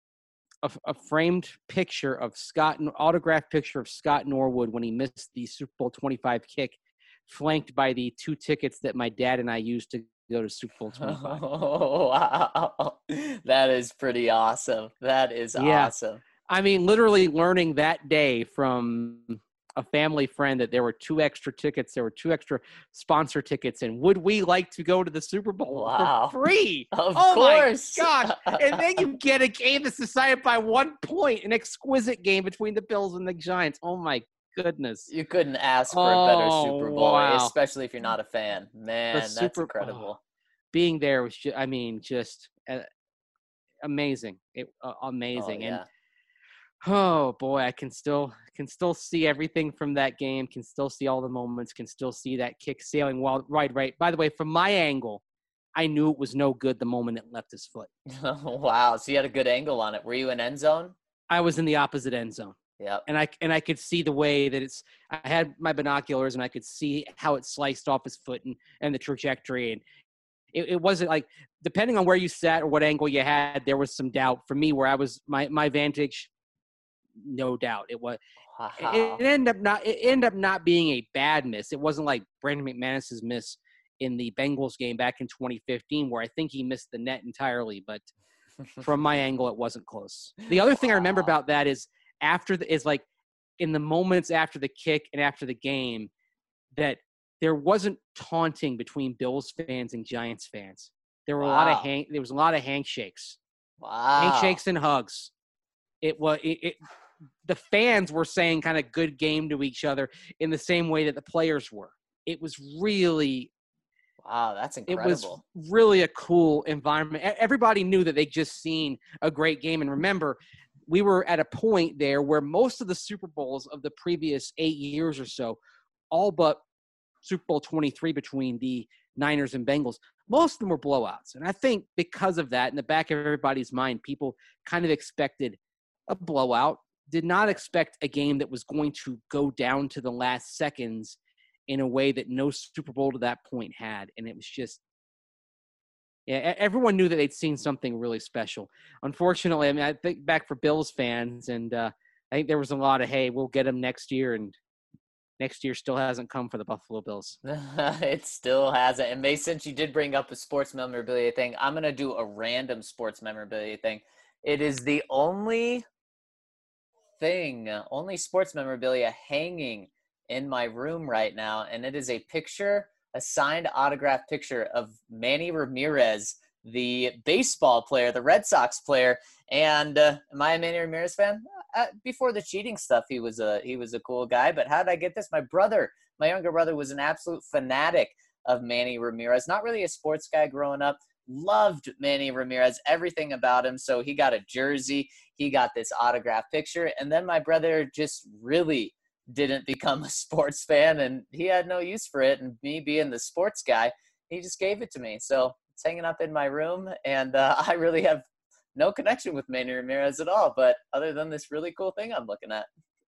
a, a framed picture of Scott, an autographed picture of Scott Norwood when he missed the Super Bowl twenty-five kick, flanked by the two tickets that my dad and I used to go to Super Bowl twenty-five. Oh, wow. That is pretty awesome. That is Yeah. awesome. I mean, literally learning that day from a family friend that there were two extra tickets, there were two extra sponsor tickets, and would we like to go to the Super Bowl Wow. for free? Of oh course. my gosh. And then you get a game that's decided by one point, an exquisite game between the Bills and the Giants. Oh my goodness. You couldn't ask for a better Oh, Super Bowl, wow. especially if you're not a fan. Man, The that's Super- incredible. Being there was just, I mean, just uh, amazing. It uh, amazing. Oh, And yeah. oh boy, I can still can still see everything from that game. Can still see all the moments. Can still see that kick sailing well. Right, right. By the way, from my angle, I knew it was no good the moment it left his foot. Wow. So you had a good angle on it. Were you in end zone? I was in the opposite end zone, Yep. and I and I could see the way that it's. I had my binoculars, and I could see how it sliced off his foot and and the trajectory. And it, it wasn't like, depending on where you sat or what angle you had, there was some doubt for me where I was my my vantage. No doubt it was. Wow. It, it ended up not. It ended up not being a bad miss. It wasn't like Brandon McManus's miss in the Bengals game back in twenty fifteen, where I think he missed the net entirely. But from my angle, it wasn't close. The other thing I remember Wow. about that is after the, is like in the moments after the kick and after the game, that there wasn't taunting between Bills fans and Giants fans. There were a lot of Wow. hand. There was a lot of handshakes, Wow. handshakes and hugs. It was it, it the fans were saying kind of good game to each other in the same way that the players were. It was really, Wow, that's it incredible. was really a cool environment. E- Everybody knew that they'd just seen a great game. And remember, we were at a point there where most of the Super Bowls of the previous eight years or so, all but Super Bowl twenty-three between the Niners and Bengals, most of them were blowouts. And I think because of that, in the back of everybody's mind, people kind of expected a blowout, did not expect a game that was going to go down to the last seconds in a way that no Super Bowl to that point had. And it was just, yeah, everyone knew that they'd seen something really special. Unfortunately, I mean, I think back for Bills fans, and uh, I think there was a lot of, hey, we'll get them next year, and next year still hasn't come for the Buffalo Bills. It still hasn't. And Mace, since you did bring up a sports memorabilia thing, I'm going to do a random sports memorabilia thing. It is the only thing, only sports memorabilia hanging in my room right now, and it is a picture, a signed autograph picture of Manny Ramirez, the baseball player, the Red Sox player. And uh, am I a Manny Ramirez fan? Uh, before the cheating stuff, he was a he was a cool guy. But how did I get this? My brother, my younger brother, was an absolute fanatic of Manny Ramirez. Not really a sports guy growing up. Loved Manny Ramirez, everything about him. So he got a jersey. He got this autograph picture. And then my brother just really didn't become a sports fan, and he had no use for it. And me being the sports guy, he just gave it to me. So it's hanging up in my room, and uh, I really have no connection with Manny Ramirez at all. But other than this really cool thing I'm looking at.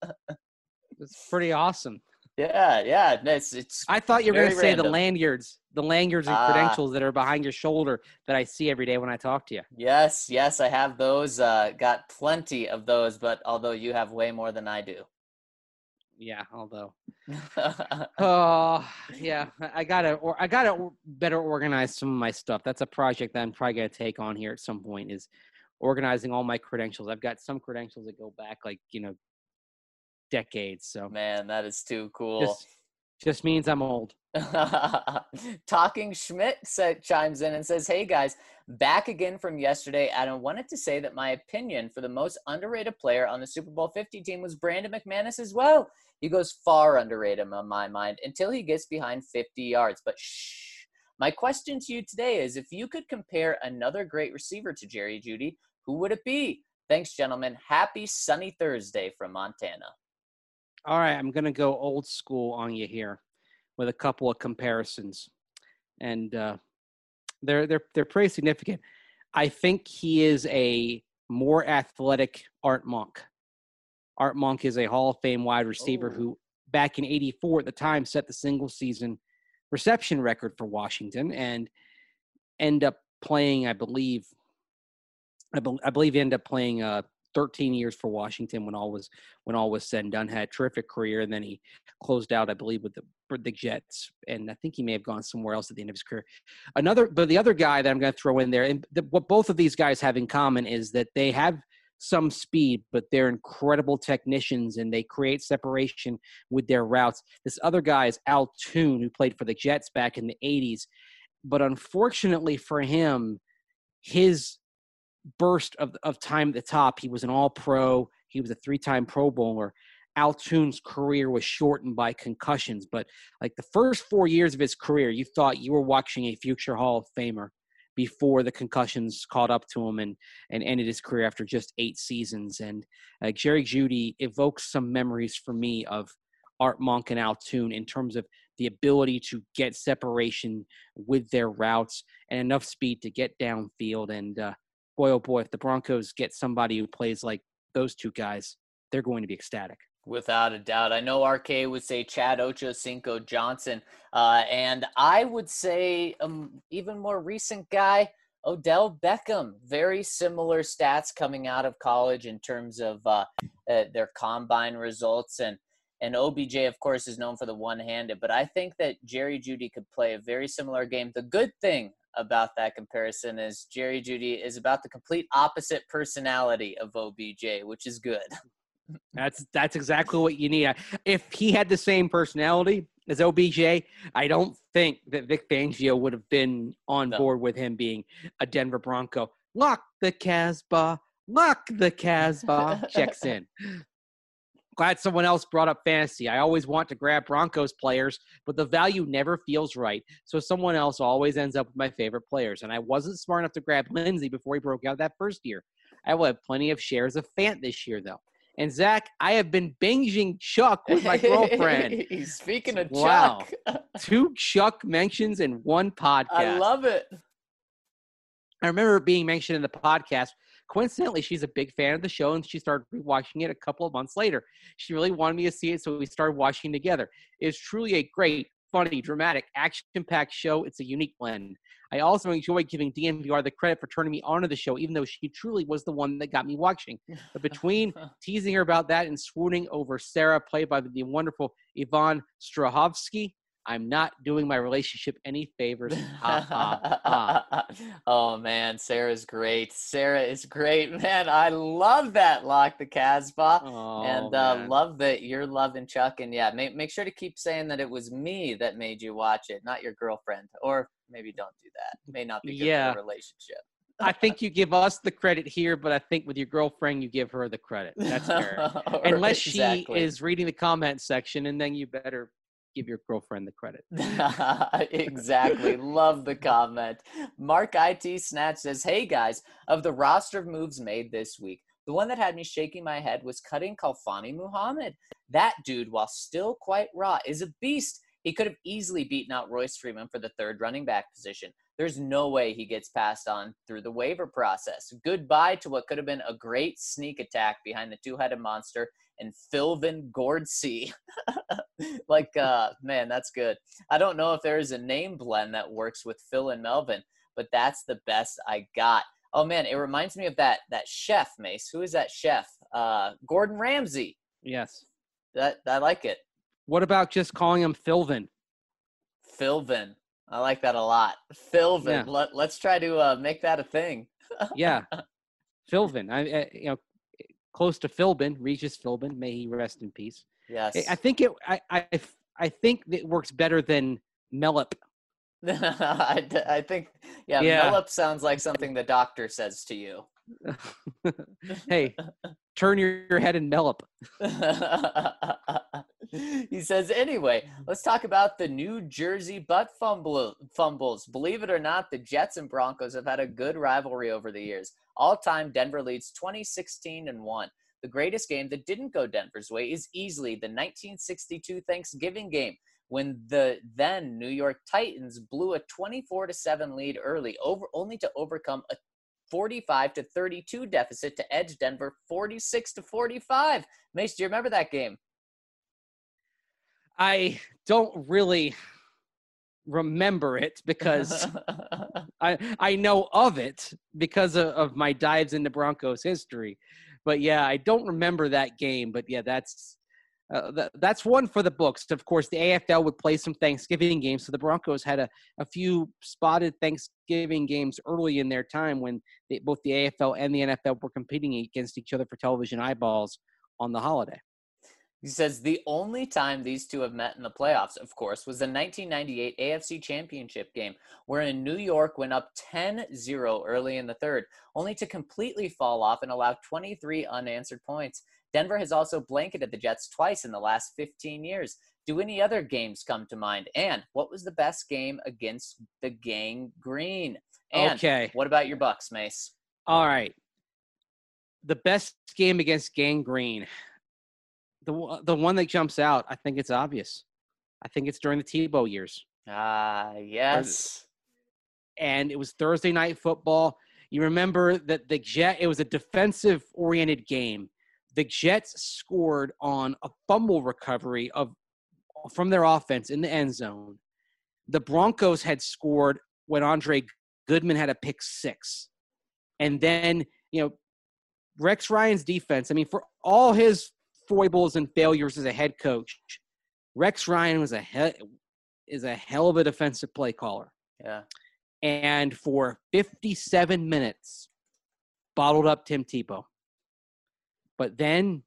It's pretty awesome. Yeah, yeah. It's, it's I thought you were going to very say the random. lanyards, the lanyards and Ah. credentials that are behind your shoulder that I see every day when I talk to you. Yes, yes, I have those. Uh, got plenty of those, but although you have way more than I do. Yeah, although, oh yeah, I I gotta, or I gotta or- better organize some of my stuff. That's a project that I'm probably gonna take on here at some point. Is organizing all my credentials. I've got some credentials that go back like you know decades. So Man, that is too cool. just just means I'm old. Talking Schmidt said, chimes in and says, hey guys, back again from yesterday. And I wanted to say that my opinion for the most underrated player on the Super Bowl fifty team was Brandon McManus as well. He goes far underrated on my mind until he gets behind fifty yards. But shh. My question to you today is, if you could compare another great receiver to Jerry Jeudy, who would it be? Thanks, gentlemen. Happy sunny Thursday from Montana. All right, I'm gonna go old school on you here with a couple of comparisons, and uh, they're they're they're pretty significant. I think he is a more athletic Art Monk. Art Monk is a Hall of Fame wide receiver Oh. who, back in eighty-four at the time, set the single season reception record for Washington and end up playing, I believe, I, be, I believe he ended up playing uh, thirteen years for Washington when all was when all was said and done. Had a terrific career, and then he closed out, I believe, with the with the Jets, and I think he may have gone somewhere else at the end of his career. Another, but the other guy that I'm going to throw in there, and the, what both of these guys have in common is that they have some speed, but they're incredible technicians and they create separation with their routes. This other guy is Al Toon, who played for the Jets back in the eighties. But unfortunately for him, his burst of, of time at the top, he was an all-pro. He was a three-time Pro Bowler. Al Toon's career was shortened by concussions. But like the first four years of his career, you thought you were watching a future Hall of Famer before the concussions caught up to him and, and ended his career after just eight seasons. And uh, Jerry Jeudy evokes some memories for me of Art Monk and Al Toon in terms of the ability to get separation with their routes and enough speed to get downfield. And uh, boy, oh boy, if the Broncos get somebody who plays like those two guys, they're going to be ecstatic. Without a doubt. I know R K would say Chad Ochocinco Johnson, uh, and I would say um, even more recent guy, Odell Beckham. Very similar stats coming out of college in terms of uh, uh, their combine results. And, and O B J, of course, is known for the one-handed, but I think that Jerry Jeudy could play a very similar game. The good thing about that comparison is Jerry Jeudy is about the complete opposite personality of O B J, which is good. That's that's exactly what you need. If he had the same personality as O B J, I don't think that Vic Fangio would have been on No. board with him being a Denver Bronco. Lock the Casbah, lock the Casbah. Checks in. Glad someone else brought up fantasy. I always want to grab Broncos players, but the value never feels right. So someone else always ends up with my favorite players. And I wasn't smart enough to grab Lindsey before he broke out that first year. I will have plenty of shares of Fant this year, though. And Zach, I have been binging Chuck with my girlfriend. Speaking of Wow. Chuck. Two Chuck mentions in one podcast. I love it. I remember it being mentioned in the podcast. Coincidentally, she's a big fan of the show, and she started watching it a couple of months later. She really wanted me to see it, so we started watching together. It's truly a great, funny, dramatic, action-packed show. It's a unique blend. I also enjoy giving D N V R the credit for turning me onto the show, even though she truly was the one that got me watching. But between teasing her about that and swooning over Sarah, played by the wonderful Yvonne Strahovski, I'm not doing my relationship any favors. Ha, ha, ha. Oh, man, Sarah's great. Sarah is great, man. I love that Lock the Casbah. Oh, and uh, man. love that you're loving Chuck. And, yeah, make, make sure to keep saying that it was me that made you watch it, not your girlfriend. Or maybe don't do that. It may not be good Yeah. for the relationship. I think you give us the credit here, but I think with your girlfriend, you give her the credit. That's fair. Unless she Exactly. is reading the comment section, and then you better give your girlfriend the credit. Exactly. Love the comment. Mark I T Snatch says, hey guys, of the roster of moves made this week, the one that had me shaking my head was cutting Khalfani Muhammad. That dude, while still quite raw, is a beast. He could have easily beaten out Royce Freeman for the third running back position. There's no way he gets passed on through the waiver process. Goodbye to what could have been a great sneak attack behind the two-headed monster and Philvin Gordsey. like, uh, man, that's good. I don't know if there is a name blend that works with Phil and Melvin, but that's the best I got. Oh, man, it reminds me of that that chef, Mace. Who is that chef? Uh, Gordon Ramsay. Yes. That I like it. What about just calling him Philvin? Philvin. I like that a lot. Philvin. Yeah. Let, let's try to uh, make that a thing. Yeah. Philvin. I, I, you know, close to Philbin, Regis Philbin. May he rest in peace. Yes. I think it. I. I. I think it works better than Mellop. I, I think, yeah, Yeah. Mellop sounds like something the doctor says to you. Hey, turn your, your head and Mellop. He says, anyway, let's talk about the New Jersey butt fumble, fumbles. Believe it or not, the Jets and Broncos have had a good rivalry over the years. All time, Denver leads twenty sixteen and one. The greatest game that didn't go Denver's way is easily the nineteen sixty-two Thanksgiving game, when the then New York Titans blew a twenty-four to seven lead early, over only to overcome a forty-five to thirty-two deficit to edge Denver forty-six to forty-five. Mace, do you remember that game? I don't really remember it because I I know of it because of, of my dives into Broncos history. But yeah, I don't remember that game. But yeah, that's uh, th- that's one for the books. Of course, the A F L would play some Thanksgiving games, so the Broncos had a, a few spotted Thanksgiving games early in their time when they, both the A F L and the N F L were competing against each other for television eyeballs on the holiday. He says the only time these two have met in the playoffs, of course, was the nineteen ninety-eight A F C Championship game, wherein New York went up ten zero early in the third, only to completely fall off and allow twenty-three unanswered points. Denver has also blanketed the Jets twice in the last fifteen years. Do any other games come to mind? And what was the best game against the Gang Green? And Okay. what about your Bucks, Mace? All right. The best game against Gang Green. The, the one that jumps out, I think it's obvious. I think it's during the Tebow years. Ah, yes. And it was Thursday night football. You remember that the Jet, it was a defensive-oriented game. The Jets scored on a fumble recovery of from their offense in the end zone. The Broncos had scored when Andre Goodman had a pick six. And then, you know, Rex Ryan's defense, I mean, for all his foibles and failures as a head coach, Rex Ryan was a he- is a hell of a defensive play caller. Yeah. And for fifty-seven minutes, bottled up Tim Tebow. But then,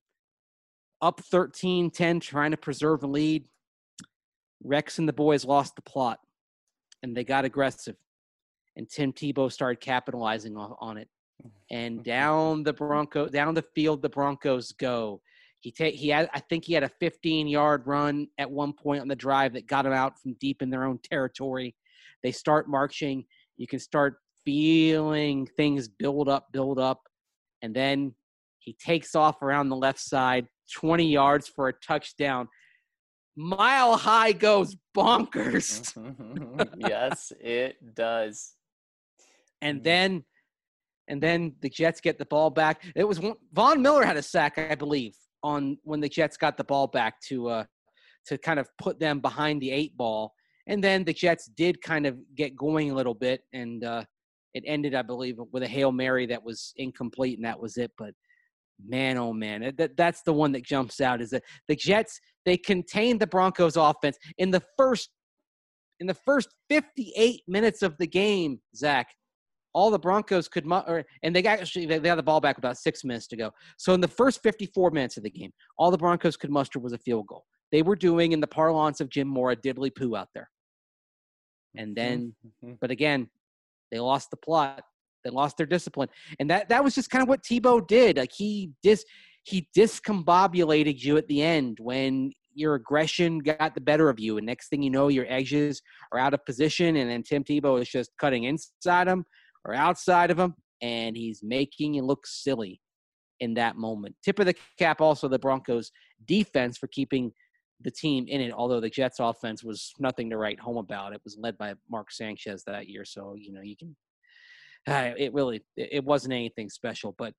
up thirteen ten, trying to preserve a lead, Rex and the boys lost the plot, and they got aggressive. And Tim Tebow started capitalizing on, on it. And down the Bronco, down the field, the Broncos go. He ta- he had, I think he had a fifteen-yard run at one point on the drive that got him out from deep in their own territory. They start marching. You can start feeling things build up, build up. And then he takes off around the left side, twenty yards for a touchdown. Mile High goes bonkers. Yes, it does. And then and then the Jets get the ball back. It was one, Von Miller had a sack, I believe, on when the Jets got the ball back to uh, to kind of put them behind the eight ball. And then the Jets did kind of get going a little bit, and uh, it ended, I believe, with a Hail Mary that was incomplete, and that was it. But man, oh man, that that's the one that jumps out is that the Jets, they contained the Broncos offense in the first in the first fifty-eight minutes of the game, Zach. All the Broncos could, or, and they got, actually they got the ball back with about six minutes to go. So in the first fifty-four minutes of the game, all the Broncos could muster was a field goal. They were doing, in the parlance of Jim Moore, a diddly poo out there. And then, Mm-hmm. but again, they lost the plot. They lost their discipline, and that that was just kind of what Tebow did. Like he dis he discombobulated you at the end when your aggression got the better of you, and next thing you know, your edges are out of position, and then Tim Tebow is just cutting inside him or outside of him, and he's making you look silly in that moment. Tip of the cap also the Broncos defense for keeping the team in it, although the Jets offense was nothing to write home about. It was led by Mark Sanchez that year, so, you know, you can uh, – it really – it wasn't anything special, but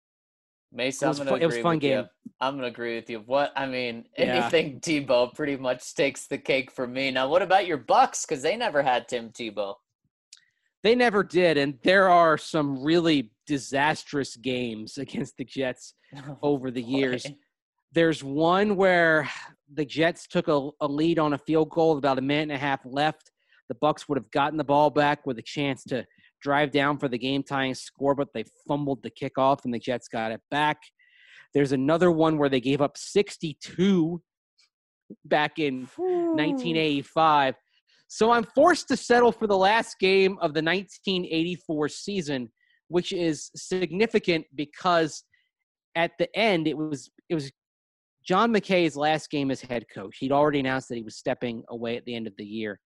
Mace, it I'm was, going fu- to it was agree a fun with game. you. I'm going to agree with you. What I mean, Yeah. anything Tebow pretty much takes the cake for me. Now, what about your Bucks? Because they never had Tim Tebow. They never did, and there are some really disastrous games against the Jets over the Boy. years. There's one where the Jets took a, a lead on a field goal with about a minute and a half left. The Bucks would have gotten the ball back with a chance to drive down for the game-tying score, but they fumbled the kickoff, and the Jets got it back. There's another one where they gave up sixty-two back in nineteen eighty-five. So I'm forced to settle for the last game of the nineteen eighty-four season, which is significant because at the end it was it was John McKay's last game as head coach. He'd already announced that he was stepping away at the end of the year.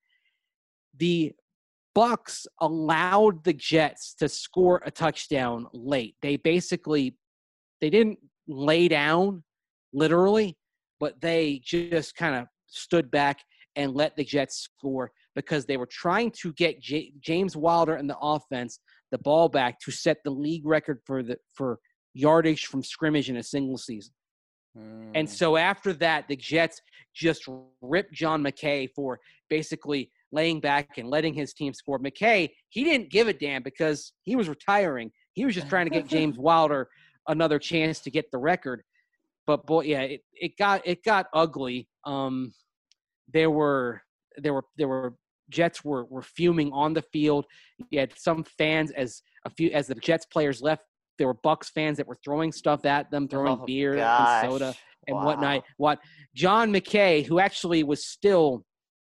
The Bucks allowed the Jets to score a touchdown late. They basically they didn't lay down literally, but they just kind of stood back and let the Jets score because they were trying to get J- James Wilder and the offense the ball back to set the league record for the for yardage from scrimmage in a single season. Mm. And so after that, the Jets just ripped John McKay for basically laying back and letting his team score. McKay, he didn't give a damn because he was retiring. He was just trying to get James Wilder another chance to get the record. but boy, yeah, it, it got it got ugly. Um, there were there were there were Jets were were fuming on the field. You had some fans as a few as the Jets players left. There were Bucks fans that were throwing stuff at them, throwing Oh beer and gosh. soda and Wow. whatnot. What John McKay, who actually was still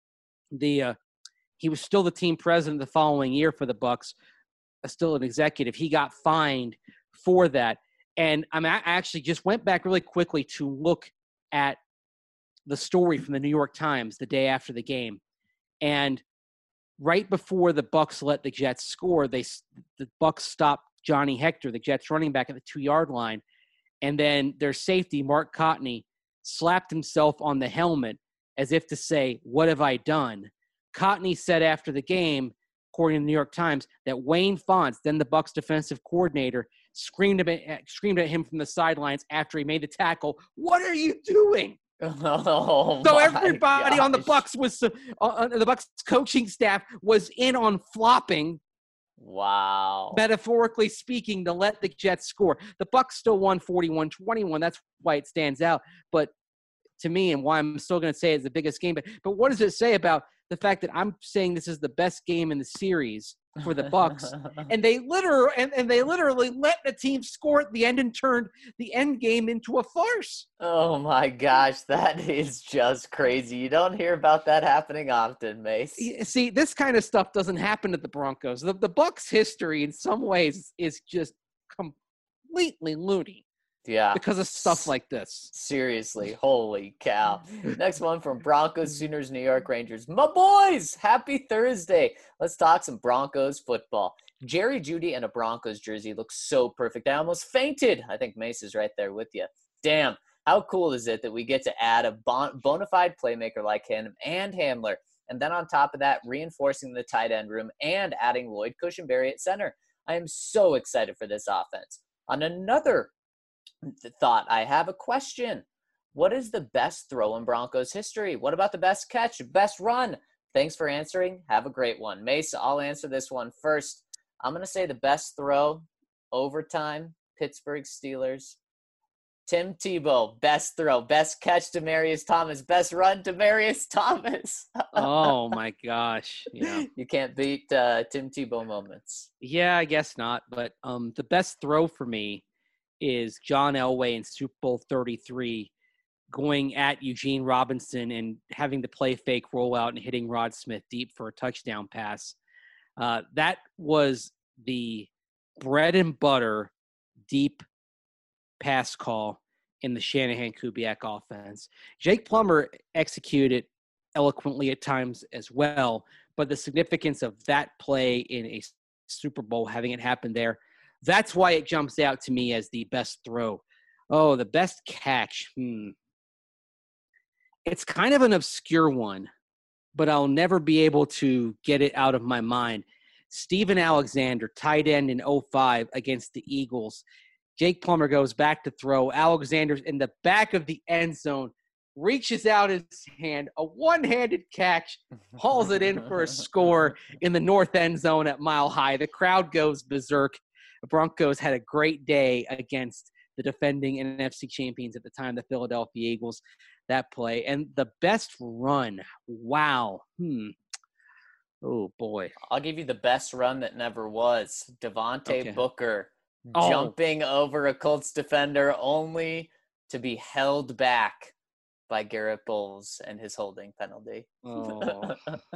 the uh, he was still the team president the following year for the Bucks, uh, still an executive. He got fined for that. And I'm I actually just went back really quickly to look at the story from the New York Times the day after the game. And right before the Bucks let the Jets score, they the Bucks stopped Johnny Hector, the Jets running back, at the two-yard line. And then their safety, Mark Cotney, slapped himself on the helmet as if to say, "What have I done?" Cotney said after the game, according to the New York Times, that Wayne Fontes, then the Bucks defensive coordinator, screamed at, screamed at him from the sidelines after he made the tackle, "What are you doing?" Oh, So my everybody on the gosh. Bucks was uh, uh, the Bucks coaching staff was in on flopping, Wow. metaphorically speaking, to let the Jets score. The Bucks still won forty-one twenty-one. That's why it stands out. But to me, and why I'm still going to say it's the biggest game. But but what does it say about the fact that I'm saying this is the best game in the series for the Bucks, and they literally and, and they literally let the team score at the end and turned the end game into a farce. Oh my gosh, that is just crazy. You don't hear about that happening often, Mace. Y- See, this kind of stuff doesn't happen at the Broncos. The, the Bucks' history, in some ways, is just completely loony Yeah. because of stuff like this. Seriously, holy cow. Next one from Broncos, Sooners, New York Rangers. My boys, happy Thursday. Let's talk some Broncos football. Jerry Jeudy in a Broncos jersey looks so perfect. I almost fainted. I think Mace is right there with you. Damn, how cool is it that we get to add a bon- bona fide playmaker like him and Hamler, and then on top of that, reinforcing the tight end room and adding Lloyd Cushenberry at center. I am so excited for this offense. On another thought, I have a question. What is the best throw in Broncos history? What about the best catch, best run? Thanks for answering. Have a great one. Mace, I'll answer this one first. I'm going to say the best throw, overtime, Pittsburgh Steelers. Tim Tebow, best throw, best catch, Demaryius Thomas, best run, Demaryius Thomas. Oh, my gosh. Yeah. You can't beat uh, Tim Tebow moments. Yeah, I guess not. But um, the best throw for me is John Elway in Super Bowl thirty-three going at Eugene Robinson and having the play fake rollout and hitting Rod Smith deep for a touchdown pass. Uh, that was the bread and butter deep pass call in the Shanahan-Kubiak offense. Jake Plummer executed eloquently at times as well, but the significance of that play in a Super Bowl, having it happen there, that's why it jumps out to me as the best throw. Oh, the best catch. Hmm. It's kind of an obscure one, but I'll never be able to get it out of my mind. Steven Alexander, tight end in oh five against the Eagles. Jake Plummer goes back to throw. Alexander's in the back of the end zone, reaches out his hand, a one-handed catch, hauls it in for a score in the north end zone at Mile High. The crowd goes berserk. The Broncos had a great day against the defending N F C champions at the time, the Philadelphia Eagles, that play. And the best run, wow. Hmm. Oh, boy. I'll give you the best run that never was. Devontae Okay. Booker Oh. jumping over a Colts defender only to be held back by Garrett Bowles and his holding penalty. Oh.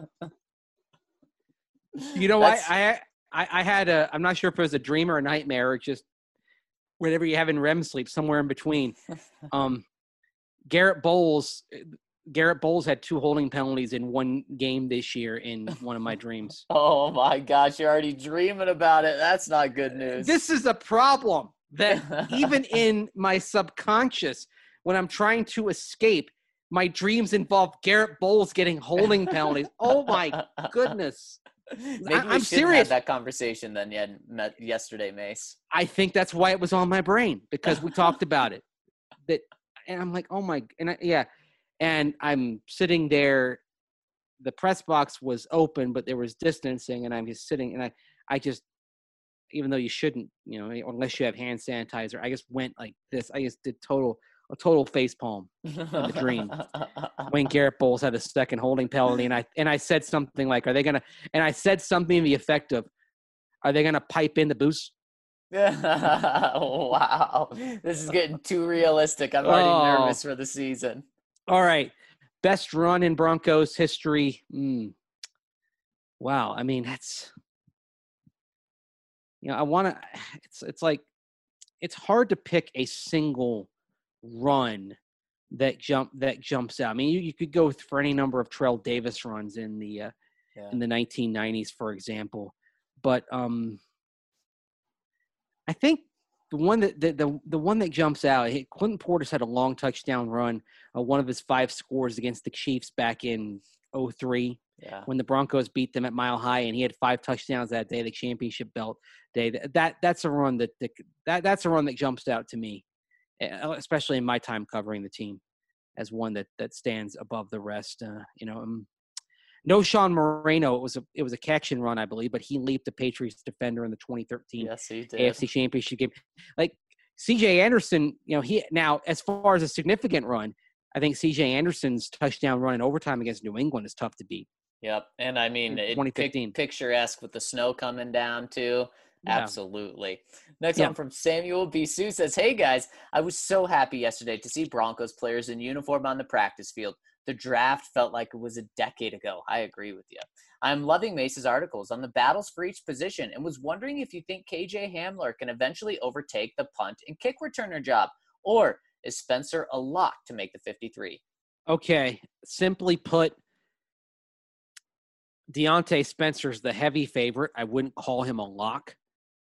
You know what? That's- I, I I had a – I'm not sure if it was a dream or a nightmare or just whatever you have in R E M sleep, somewhere in between. Um, Garrett Bowles – Garrett Bowles had two holding penalties in one game this year in one of my dreams. Oh, my gosh. You're already dreaming about it. That's not good news. This is a problem that even in my subconscious, when I'm trying to escape, my dreams involve Garrett Bowles getting holding penalties. Oh, my goodness. Maybe I- we I'm shouldn't serious. have that conversation then yet met yesterday, Mace. I think that's why it was on my brain, because we talked about it. That, and I'm like, oh, my – and I, yeah. And I'm sitting there. The press box was open, but there was distancing, and I'm just sitting. And I, I just, even though you shouldn't, you know, unless you have hand sanitizer, I just went like this. I just did total a total facepalm in the dream. When Garrett Bowles had a second holding penalty, and I and I said something like, "Are they gonna?" And I said something in the effect of, "Are they gonna pipe in the boost?" Wow, this is getting too realistic. I'm already Oh. nervous for the season. All right, best run in Broncos history. Mm. Wow, I mean that's, you know, I want to. It's it's like it's hard to pick a single run that jump that jumps out. I mean, you, you could go for any number of Terrell Davis runs in the uh, Yeah. in the nineteen nineties, for example, but um. I think the one that the, the the one that jumps out, Clinton Portis had a long touchdown run, uh, one of his five scores against the Chiefs back in oh three Yeah. when the Broncos beat them at Mile High, and he had five touchdowns that day, the championship belt day. That that's a run that that that's a run that jumps out to me, especially in my time covering the team, as one that that stands above the rest. Uh, you know. Um, No Sean Moreno. It was a it was a catch and run, I believe, but he leaped the Patriots defender in the twenty thirteen Yes, he did. A F C Championship game. Like C J Anderson, you know, he now as far as a significant run, I think C J Anderson's touchdown run in overtime against New England is tough to beat. Yep, and I mean, it twenty fifteen pic- picturesque with the snow coming down too. Yeah. Absolutely. Next Yeah. one from Samuel B. Sue says, "Hey guys, I was so happy yesterday to see Broncos players in uniform on the practice field. The draft felt like it was a decade ago." I agree with you. I'm loving Mace's articles on the battles for each position and was wondering if you think K J Hamler can eventually overtake the punt and kick returner job, or is Spencer a lock to make the fifty-three? Okay, simply put, Deontay Spencer's the heavy favorite. I wouldn't call him a lock.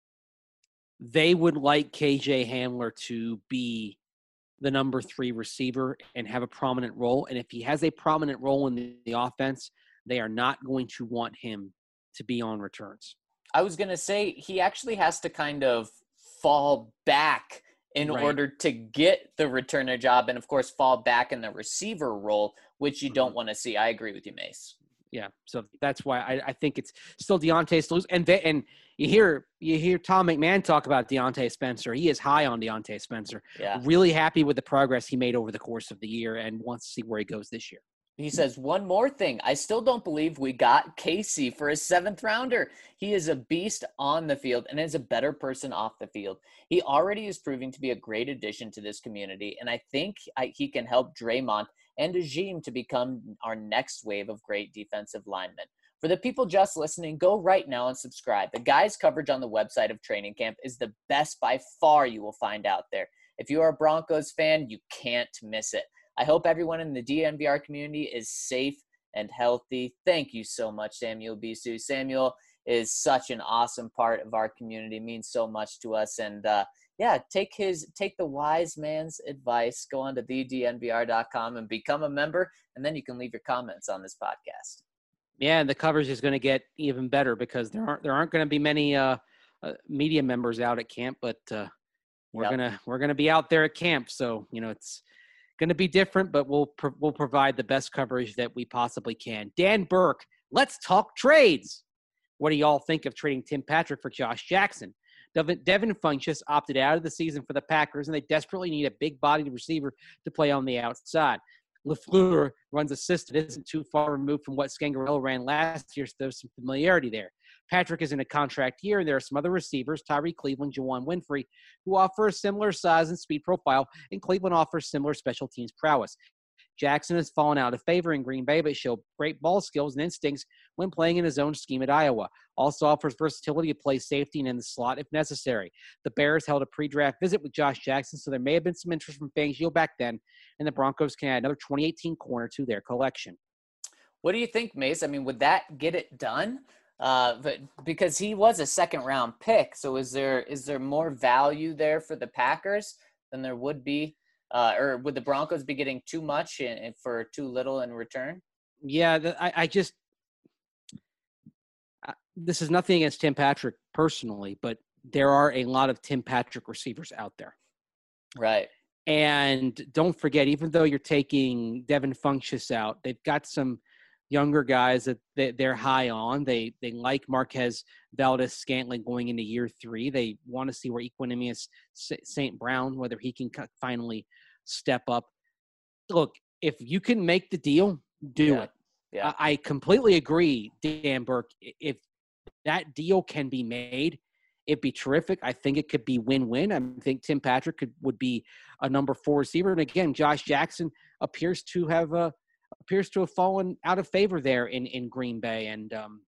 They would like K J Hamler to be the number three receiver and have a prominent role. And if he has a prominent role in the, the offense, they are not going to want him to be on returns. I was going to say he actually has to kind of fall back in Right. order to get the returner job and, of course, fall back in the receiver role, which you don't Mhm. want to see. I agree with you, Mace. Yeah, so that's why I, I think it's still Deontay's to lose. And they, and you hear you hear Tom McMahon talk about Deontay Spencer. He is high on Deontay Spencer. Yeah. Really happy with the progress he made over the course of the year and wants to see where he goes this year. He says, one more thing. I still don't believe we got Casey for a seventh rounder. He is a beast on the field and is a better person off the field. He already is proving to be a great addition to this community, and I think I, he can help Draymond and Ajim to become our next wave of great defensive linemen. For the people just listening, go right now and subscribe. The guys' coverage on the website of Training Camp is the best by far you will find out there. If you are a Broncos fan, you can't miss it. I hope everyone in the D N V R community is safe and healthy. Thank you so much, Samuel Bisu. Samuel is such an awesome part of our community, means so much to us. And uh, yeah, take his take the wise man's advice. Go on to the d n v r dot com and become a member, and then you can leave your comments on this podcast. Yeah, and the coverage is going to get even better because there aren't there aren't going to be many uh, uh, media members out at camp, but uh, we're Yep. gonna we're gonna be out there at camp. So you know it's going to be different, but we'll pro- we'll provide the best coverage that we possibly can. Dan Burke, let's talk trades. What do y'all think of trading Tim Patrick for Josh Jackson? Devin, Devin Funchess opted out of the season for the Packers, and they desperately need a big-bodied receiver to play on the outside. LaFleur runs a system that isn't too far removed from what Scangarello ran last year, so there's some familiarity there. Patrick is in a contract year, and there are some other receivers, Tyree Cleveland, Juwan Winfrey, who offer a similar size and speed profile, and Cleveland offers similar special teams prowess. Jackson has fallen out of favor in Green Bay, but showed great ball skills and instincts when playing in his own scheme at Iowa. Also offers versatility to play safety and in the slot if necessary. The Bears held a pre-draft visit with Josh Jackson, so there may have been some interest from Fangio back then, and the Broncos can add another twenty eighteen corner to their collection. What do you think, Mace? I mean, would that get it done? Uh, but because he was a second round pick, so is there is there more value there for the Packers than there would be, uh, or would the Broncos be getting too much in, in for too little in return? Yeah, the, I, I just uh, this is nothing against Tim Patrick personally, but there are a lot of Tim Patrick receivers out there. Right. And don't forget, even though you're taking Devin Funchess out, they've got some younger guys that they, they're high on. They they like Marquez Valdez-Scantling going into year three. They want to see where Equanimous Saint Brown, whether he can finally step up. Look, if you can make the deal, do Yeah. it. Yeah. I, I completely agree, Dan Burke. If that deal can be made, it'd be terrific. I think it could be win-win. I think Tim Patrick could would be a number four receiver. And again, Josh Jackson appears to have uh, appears to have fallen out of favor there in, in Green Bay. And um,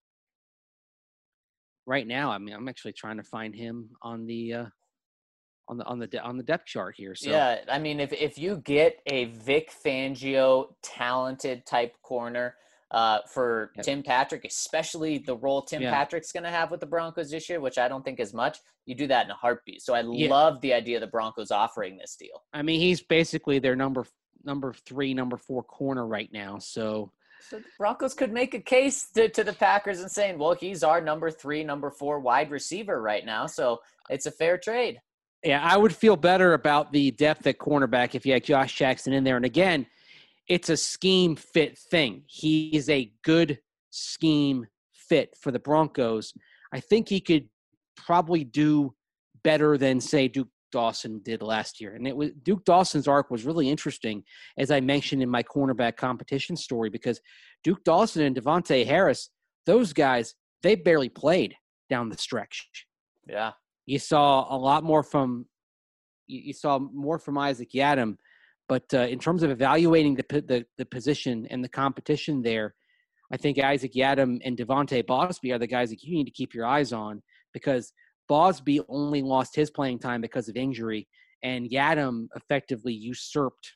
right now, I mean, I'm actually trying to find him on the uh, on the on the on the depth chart here. So Yeah, I mean, if if you get a Vic Fangio talented type corner uh, for Yep. Tim Patrick, especially the role Tim Yeah. Patrick's going to have with the Broncos this year, which I don't think is much, you do that in a heartbeat. So I Yeah. love the idea of the Broncos offering this deal. I mean, he's basically their number number three, number four corner right now. So So the Broncos could make a case to, to the Packers and saying, well, he's our number three, number four wide receiver right now. So it's a fair trade. yeah, I would feel better about the depth at cornerback if you had Josh Jackson in there. And again, it's a scheme fit thing. He's a good scheme fit for the Broncos. I think he could probably do better than, say, Duke Dawson did last year. And it was Duke Dawson's arc was really interesting, as I mentioned in my cornerback competition story, because Duke Dawson and Devontae Harris, those guys, they barely played down the stretch. Yeah. You saw a lot more from you, you saw more from Isaac Yadam, but uh, in terms of evaluating the, the the position and the competition there, I think Isaac Yadam and Devontae Bosby are the guys that you need to keep your eyes on, because Bosby only lost his playing time because of injury, and Yadam effectively usurped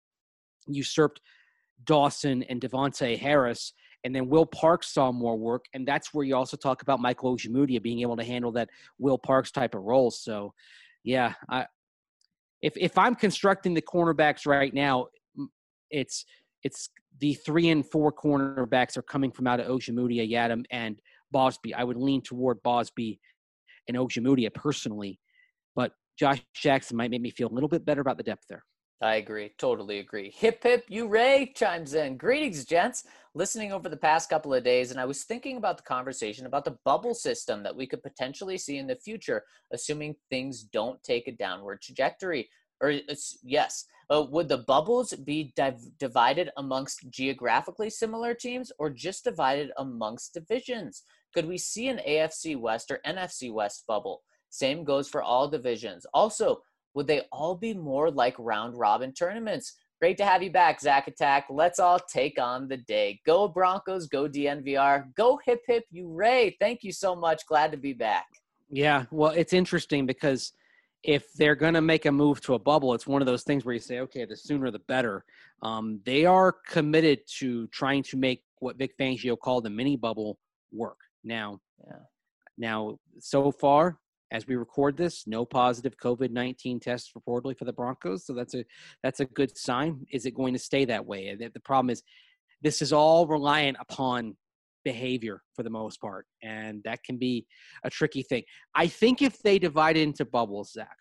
usurped Dawson and Devontae Harris. And then Will Parks saw more work, and that's where you also talk about Michael Ojemudia being able to handle that Will Parks type of role. So, yeah, I, if if I'm constructing the cornerbacks right now, it's it's the three and four cornerbacks are coming from out of Ojemudia, Yadam, and Bosby. I would lean toward Bosby and Ojemudia personally, but Josh Jackson might make me feel a little bit better about the depth there. I agree. Totally agree. Hip, hip, you Ray chimes in. Greetings, gents. Listening over the past couple of days, and I was thinking about the conversation about the bubble system that we could potentially see in the future, assuming things don't take a downward trajectory. Or, yes, uh, would the bubbles be div- divided amongst geographically similar teams or just divided amongst divisions? Could we see an A F C West or N F C West bubble? Same goes for all divisions. Also, would they all be more like round-robin tournaments? Great to have you back, Zach Attack. Let's all take on the day. Go Broncos, go D N V R, go hip hip you Ray. Thank you so much. Glad to be back. Yeah, well, it's interesting because if they're going to make a move to a bubble, it's one of those things where you say, okay, the sooner the better. Um, they are committed to trying to make what Vic Fangio called the mini bubble work. Now, Yeah. now so far, as we record this, no positive COVID nineteen tests reportedly for the Broncos. So that's a that's a good sign. Is it going to stay that way? The, the problem is this is all reliant upon behavior for the most part, and that can be a tricky thing. I think if they divide it into bubbles, Zach,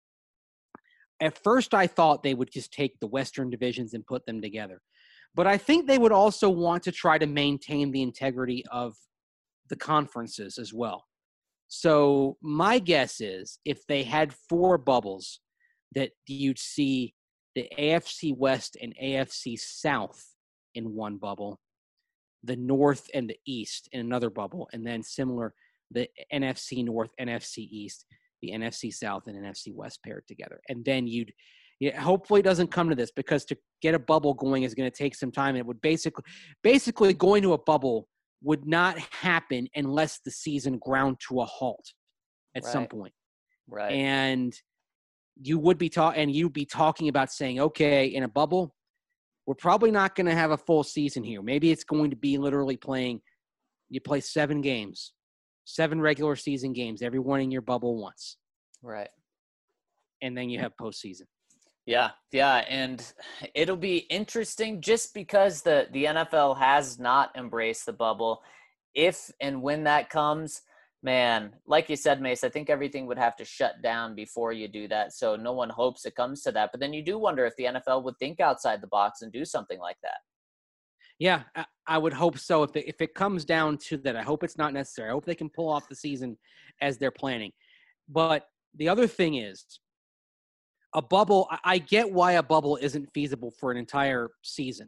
at first I thought they would just take the Western divisions and put them together. But I think they would also want to try to maintain the integrity of the conferences as well. So my guess is if they had four bubbles, that you'd see the A F C West and A F C South in one bubble, the North and the East in another bubble, and then similar, the N F C North, N F C East, the N F C South, and N F C West paired together. And then you'd yeah, hopefully it doesn't come to this, because to get a bubble going is going to take some time. And it would basically, basically going to a bubble would not happen unless the season ground to a halt at Right. some point. Right. And you would be talking, and you'd be talking about saying, okay, in a bubble, we're probably not going to have a full season here. Maybe it's going to be literally playing, you play seven games, seven regular season games, every one in your bubble once. Right. And then you have postseason. Yeah, yeah, and it'll be interesting just because the, the N F L has not embraced the bubble. If and when that comes, man, like you said, Mace, I think everything would have to shut down before you do that, so no one hopes it comes to that. But then you do wonder if the N F L would think outside the box and do something like that. Yeah, I, I would hope so. If it, if it comes down to that, I hope it's not necessary. I hope they can pull off the season as they're planning. But the other thing is, a bubble, I, I get why a bubble isn't feasible for an entire season,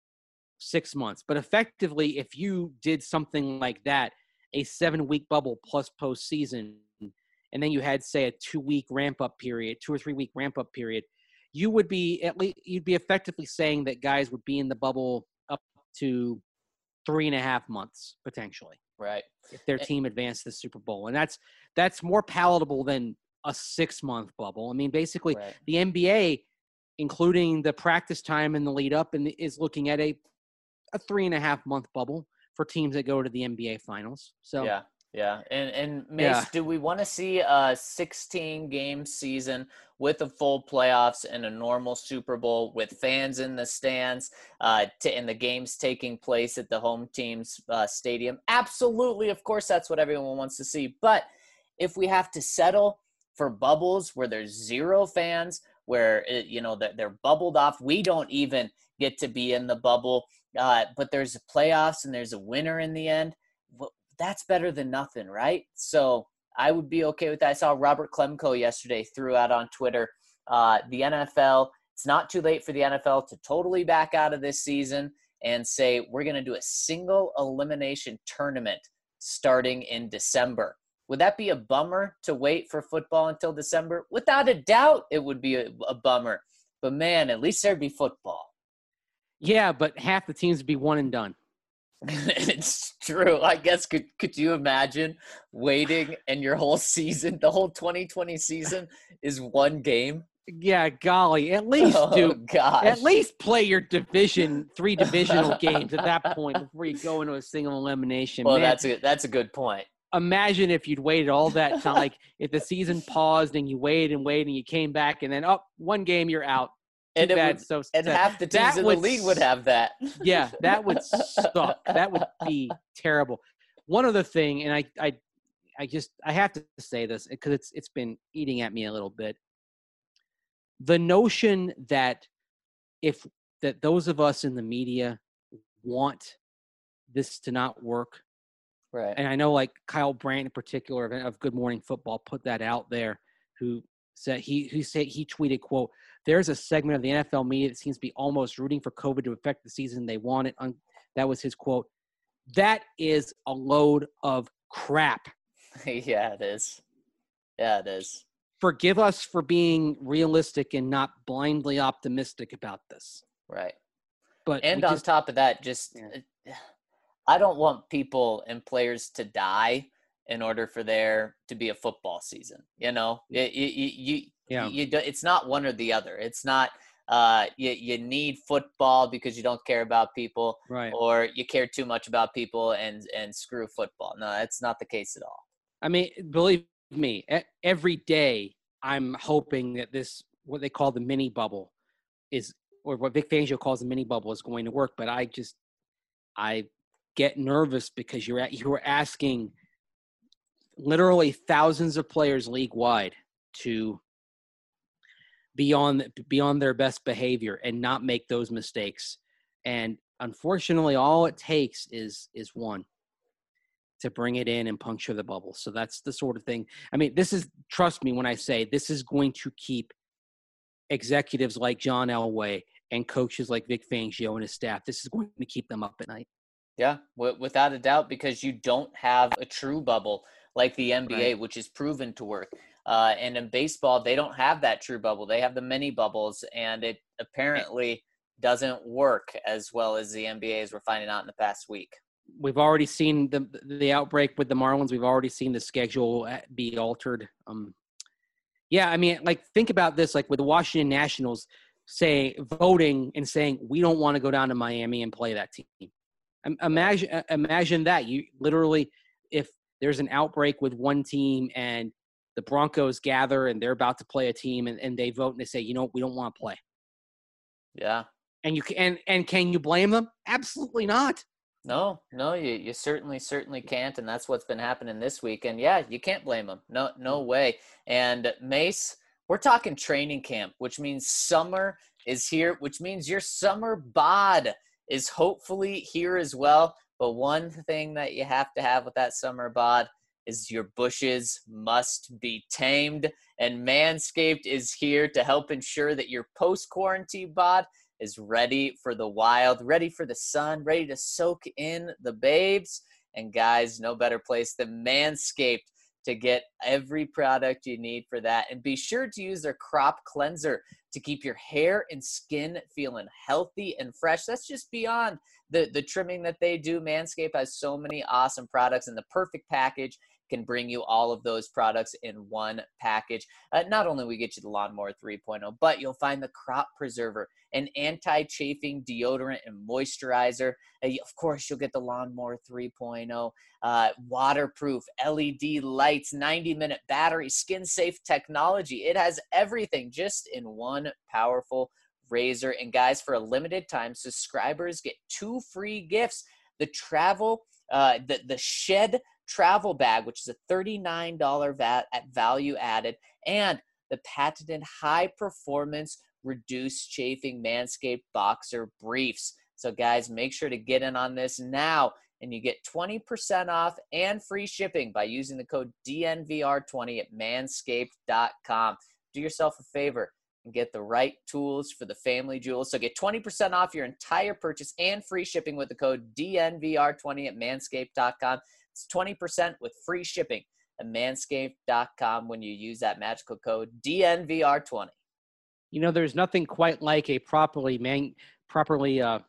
six months. But effectively, if you did something like that, a seven-week bubble plus postseason, and then you had, say, a two-week ramp-up period, two or three-week ramp-up period, you would be at least you'd be effectively saying that guys would be in the bubble up to three and a half months potentially, Right. if their team advanced to the Super Bowl, and that's that's more palatable than a six-month bubble. I mean, basically, Right. the N B A, including the practice time and the lead up, and is looking at a a three and a half month bubble for teams that go to the N B A finals. So Yeah. Yeah. And, and Mace, Yeah. do we want to see a sixteen game season with a full playoffs and a normal Super Bowl with fans in the stands, uh, to, and the games taking place at the home team's uh, stadium? Absolutely. Of course, that's what everyone wants to see. But if we have to settle for bubbles where there's zero fans, where, it, you know, that they're bubbled off, we don't even get to be in the bubble, uh, but there's a playoffs and there's a winner in the end. Well, that's better than nothing, right? So I would be okay with that. I saw Robert Klemko yesterday threw out on Twitter, uh, the N F L, it's not too late for the N F L to totally back out of this season and say, we're going to do a single elimination tournament starting in December. Would that be a bummer to wait for football until December? Without a doubt, it would be a, a bummer. But man, at least there'd be football. yeah, but half the teams would be one and done. It's true. I guess could could you imagine waiting and your whole season, the whole twenty twenty season is one game? Yeah, golly, at least Oh, do gosh. at least play your division three divisional games at that point before you go into a single elimination. Well, Man, that's a that's a good point. imagine if you'd waited all that time, like if the season paused and you waited and waited and you came back and then oh, one game you're out. Too And it bad. would- so And sad. half the teams That in the would league would have that. Yeah, that would suck. That would be terrible. One other thing, and I, I, I just I have to say this because it's it's been eating at me a little bit. The notion that if that those of us in the media want this to not work, Right. and I know like Kyle Brandt in particular of, of Good Morning Football put that out there, who said he who said he tweeted, quote, there's a segment of the N F L media that seems to be almost rooting for COVID to affect the season they want it. Un- that was his quote. That is a load of crap. Yeah, it is. Yeah, it is. Forgive us for being realistic and not blindly optimistic about this. Right. But And we on just, top of that, just Yeah. I don't want people and players to die in order for there to be a football season. You know, you, you, you, Yeah. you, do, it's not one or the other. It's not uh, you, you need football because you don't care about people, right. or you care too much about people and, and screw football. No, that's not the case at all. I mean, believe me, e- every day I'm hoping that this, what they call the mini bubble is, or what Vic Fangio calls the mini bubble is going to work. But I just, I get nervous because you're at, you're asking literally thousands of players league wide to be on, be on their best behavior and not make those mistakes. And unfortunately, all it takes is, is one to bring it in and puncture the bubble. So that's the sort of thing. I mean, this is, trust me when I say this is going to keep executives like John Elway and coaches like Vic Fangio and his staff, this is going to keep them up at night. Yeah, w- without a doubt, because you don't have a true bubble like the N B A, Right. which is proven to work. Uh, and in baseball, they don't have that true bubble. They have the mini bubbles, and it apparently doesn't work as well as the N B A, as we're finding out in the past week. We've already seen the the outbreak with the Marlins. We've already seen the schedule be altered. Um, yeah, I mean, like, think about this, like with the Washington Nationals say voting and saying, we don't want to go down to Miami and play that team. Um, Imagine, imagine that. You literally, if there's an outbreak with one team and the Broncos gather and they're about to play a team and, and they vote and they say, you know, we don't want to play. Yeah. And you can, and, and can you blame them? Absolutely not. No, no, you, you certainly, certainly can't. And that's what's been happening this week. And yeah, you can't blame them. No, no way. And Mace, we're talking training camp, which means summer is here, which means your summer bod is hopefully here as well. But one thing that you have to have with that summer bod is your bushes must be tamed, and Manscaped is here to help ensure that your post-quarantine bod is ready for the wild, ready for the sun, ready to soak in the babes. And guys, no better place than Manscaped to get every product you need for that. And be sure to use their crop cleanser to keep your hair and skin feeling healthy and fresh. That's just beyond the, the trimming that they do. Manscaped has so many awesome products, and the perfect package can bring you all of those products in one package. Uh, not only we get you the Lawnmower three point oh, but you'll find the Crop Preserver, an anti-chafing deodorant and moisturizer. Uh, of course, you'll get the Lawnmower three point oh, uh, waterproof L E D lights, ninety minute battery, skin-safe technology. It has everything just in one powerful razor. And guys, for a limited time, subscribers get two free gifts. The travel, uh, the, the Shed travel bag, which is a thirty-nine dollars vat at value added, and the patented high performance reduced chafing Manscaped boxer briefs. So guys, make sure to get in on this now, and you get twenty percent off and free shipping by using the code D N V R twenty at manscaped dot com. Do yourself a favor and get the right tools for the family jewels. So get twenty percent off your entire purchase and free shipping with the code D N V R twenty at manscaped dot com. It's twenty percent with free shipping at manscaped dot com when you use that magical code D N V R twenty. You know, there's nothing quite like a properly man, properly uh,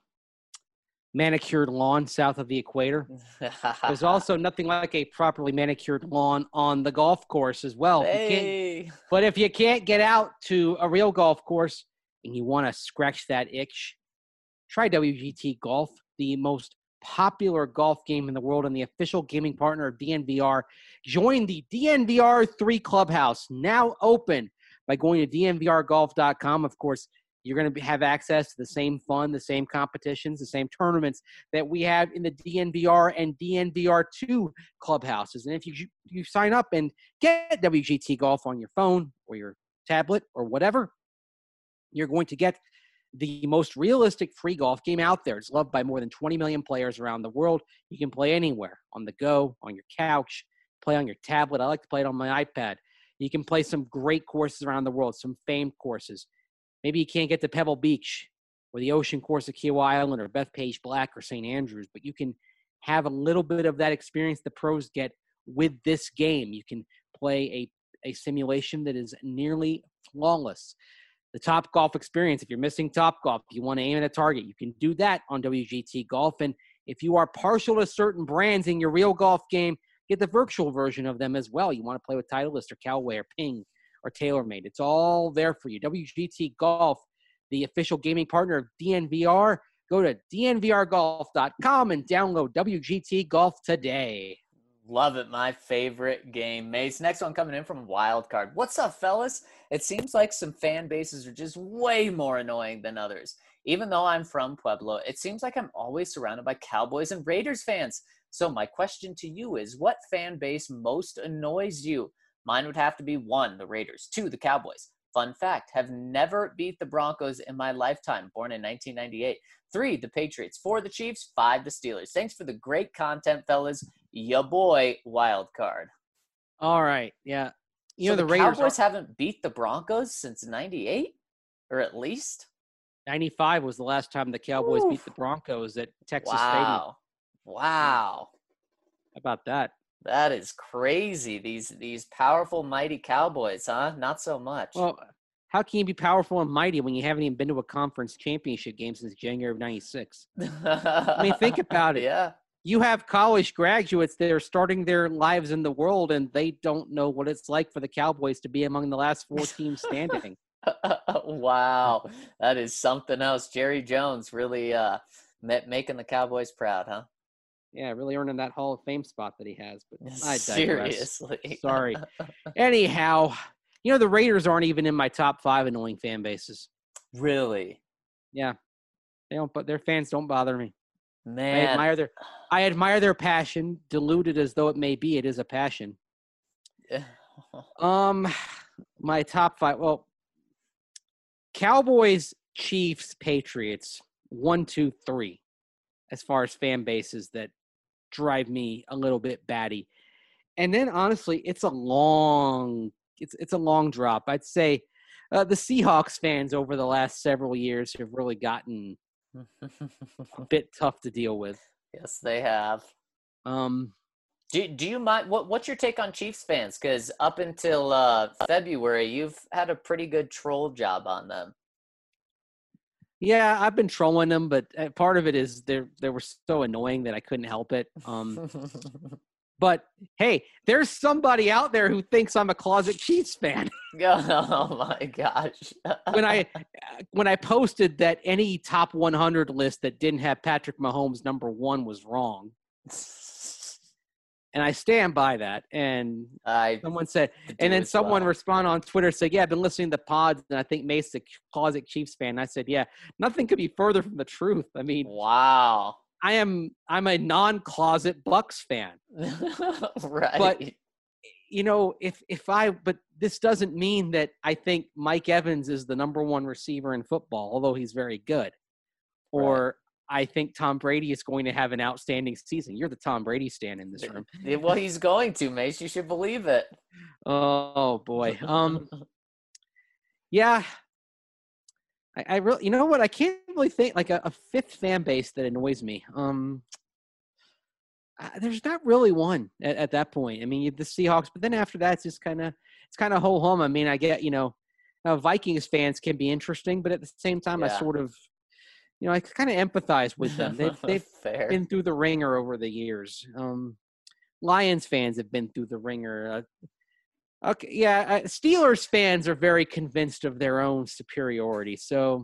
manicured lawn south of the equator. There's also nothing like a properly manicured lawn on the golf course as well. Hey. You can't, but if you can't get out to a real golf course and you want to scratch that itch, try W G T Golf, the most popular golf game in the world and the official gaming partner of D N V R. Join the D N V R three Clubhouse, now open, by going to D N V R golf dot com. Of course, you're going to have access to the same fun, the same competitions, the same tournaments that we have in the D N V R and D N V R two clubhouses. And if you you sign up and get W G T Golf on your phone or your tablet or whatever, you're going to get the most realistic free golf game out there. It's loved by more than twenty million players around the world. You can play anywhere, on the go, on your couch, play on your tablet. I like to play it on my iPad. You can play some great courses around the world, some famed courses. Maybe you can't get to Pebble Beach or the Ocean Course of Kiawah Island or Bethpage Black or Saint Andrews, but you can have a little bit of that experience the pros get with this game. You can play a, a simulation that is nearly flawless. The Top Golf experience, if you're missing Top Golf, if you want to aim at a target, you can do that on W G T Golf. And if you are partial to certain brands in your real golf game, get the virtual version of them as well. You want to play with Titleist or Callaway or Ping or TaylorMade. It's all there for you. W G T Golf, the official gaming partner of D N V R. Go to D N V R golf dot com and download W G T Golf today. Love it. My favorite game. Mace, next one coming in from Wildcard. What's up, fellas? It seems like some fan bases are just way more annoying than others. Even though I'm from Pueblo, it seems like I'm always surrounded by Cowboys and Raiders fans. So my question to you is, what fan base most annoys you? Mine would have to be one, the Raiders, two, the Cowboys. Fun fact, have never beat the Broncos in my lifetime, born in nineteen ninety-eight. Three, the Patriots. Four, the Chiefs. Five, the Steelers. Thanks for the great content, fellas. Ya boy, Wildcard. All right, yeah. You so know, the, the Raiders Cowboys are, haven't beat the Broncos since ninety-eight? Or at least? ninety-five was the last time the Cowboys Oof. beat the Broncos at Texas Stadium. Wow. Wow. How about that? That is crazy. These these powerful, mighty Cowboys, huh? Not so much. Well, how can you be powerful and mighty when you haven't even been to a conference championship game since January of ninety-six? I mean, think about it. Yeah. You have college graduates that are starting their lives in the world, and they don't know what it's like for the Cowboys to be among the last four teams standing. Wow. That is something else. Jerry Jones really uh, making the Cowboys proud, huh? Yeah, really earning that Hall of Fame spot that he has. But I digress. Seriously. Sorry. Anyhow, you know, the Raiders aren't even in my top five annoying fan bases. Really? Yeah. They don't, but their fans don't bother me. Man. I admire their I admire their passion, diluted as though it may be, it is a passion. um my top five, well, Cowboys, Chiefs, Patriots, one, two, three, as far as fan bases that drive me a little bit batty. and then honestly, it's a long it's it's a long drop. I'd say uh, the Seahawks fans over the last several years have really gotten a bit tough to deal with. Yes, they have. Um, Do do you mind what what's your take on Chiefs fans? Because up until uh, February, you've had a pretty good troll job on them. yeah, I've been trolling them, but uh, part of it is they they were so annoying that I couldn't help it. Um, but hey, there's somebody out there who thinks I'm a closet Chiefs fan. Oh my gosh! when I when I posted that any top one hundred list that didn't have Patrick Mahomes number one was wrong, and I stand by that. And I someone said, do and then as someone well. responded on Twitter, said, "Yeah, I've been listening to the pods, and I think Mace's a closet Chiefs fan." And I said, "Yeah, nothing could be further from the truth. I mean, Wow. I am I'm a non-closet Bucks fan, Right. but." You know, if if I, but this doesn't mean that I think Mike Evans is the number one receiver in football, although he's very good, or I think Tom Brady is going to have an outstanding season. You're the Tom Brady stan in this room. Well, he's going to, Mace. You should believe it. Oh boy. Um. Yeah. I, I really, you know what? I can't really think like a, a fifth fan base that annoys me. Um. Uh, there's not really one at, at that point. I mean, you have the Seahawks, but then after that, it's just kind of it's kind of ho hum. I mean, I get you know, uh, Vikings fans can be interesting, but at the same time, Yeah. I sort of, you know, I kind of empathize with them. They've they've Fair. been through the ringer over the years. Um, Lions fans have been through the ringer. Uh, okay, yeah, uh, Steelers fans are very convinced of their own superiority. So.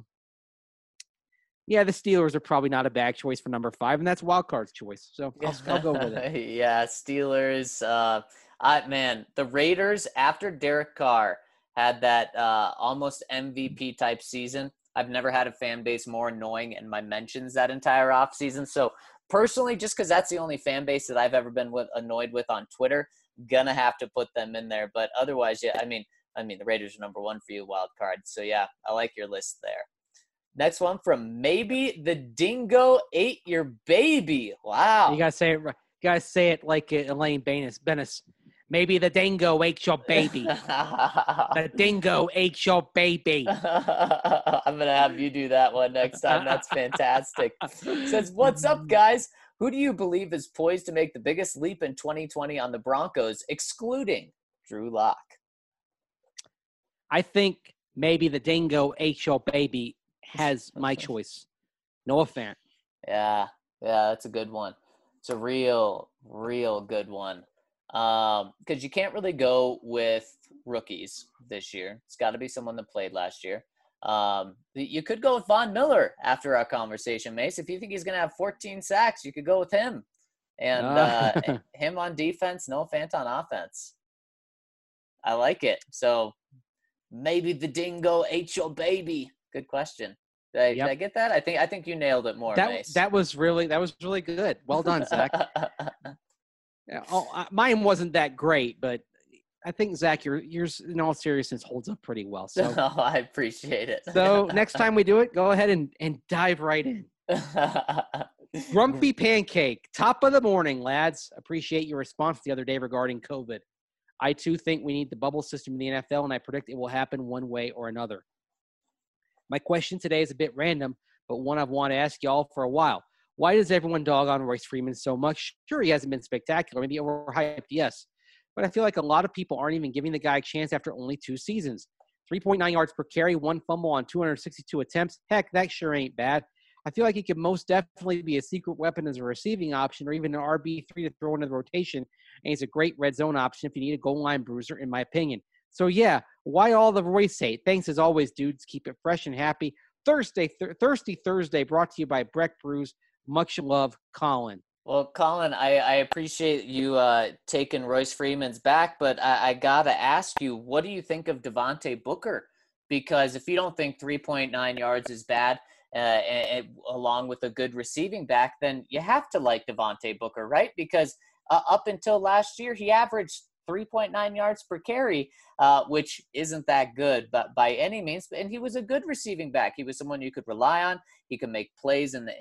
Yeah, the Steelers are probably not a bad choice for number five, and that's wild card's choice. So I'll, I'll go with it. Yeah, Steelers. Uh, I man, the Raiders after Derek Carr had that uh, almost M V P type season. I've never had a fan base more annoying in my mentions that entire offseason. So personally, just because that's the only fan base that I've ever been with, annoyed with on Twitter, gonna have to put them in there. But otherwise, yeah, I mean, I mean, the Raiders are number one for you, wild card. So yeah, I like your list there. Next one from Maybe the Dingo Ate Your Baby. Wow. You gotta say it. You gotta say it like Elaine Benes. Benes. Maybe the dingo ate your baby. The dingo ate your baby. I'm going to have you do that one next time. That's fantastic. Says, what's up, guys? Who do you believe is poised to make the biggest leap in twenty twenty on the Broncos, excluding Drew Lock? I think maybe the dingo ate your baby has my choice. Noah Fant. Yeah, yeah, that's a good one. It's a real, real good one. Um, because you can't really go with rookies this year. It's got to be someone that played last year. Um, you could go with Von Miller after our conversation, Mace. If you think he's going to have fourteen sacks, you could go with him. And uh, him on defense, Noah Fant on offense. I like it. So maybe the dingo ate your baby. Good question. Did I, Yep. did I get that? I think I think you nailed it more, That Mace. that was really that was really good. Well done, Zach. Yeah, oh, I- mine wasn't that great, but I think Zach, your yours in all seriousness holds up pretty well. So, Oh, I appreciate it. so next time we do it, go ahead and and dive right in. Grumpy Pancake, top of the morning, lads. Appreciate your response the other day regarding COVID. I too think we need the bubble system in the N F L, and I predict it will happen one way or another. My question today is a bit random, but one I've wanted to ask y'all for a while. Why does everyone dog on Royce Freeman so much? Sure, he hasn't been spectacular, maybe overhyped, yes. But I feel like a lot of people aren't even giving the guy a chance after only two seasons. three point nine yards per carry, one fumble on two hundred sixty-two attempts. Heck, that sure ain't bad. I feel like he could most definitely be a secret weapon as a receiving option or even an R B three to throw into the rotation. And he's a great red zone option if you need a goal line bruiser, in my opinion. So, yeah, why all the Royce hate? Thanks as always, dudes. Keep it fresh and happy. Thursday, th- Thirsty Thursday, brought to you by Breck Brews. Much love, Colin. Well, Colin, I, I appreciate you uh, taking Royce Freeman's back, but I, I got to ask you, what do you think of Devontae Booker? Because if you don't think three point nine yards is bad, uh, and, and along with a good receiving back, then you have to like Devontae Booker, right? Because uh, up until last year, he averaged three point nine yards per carry, uh, which isn't that good but by any means. And he was a good receiving back. He was someone you could rely on. He could make plays in the in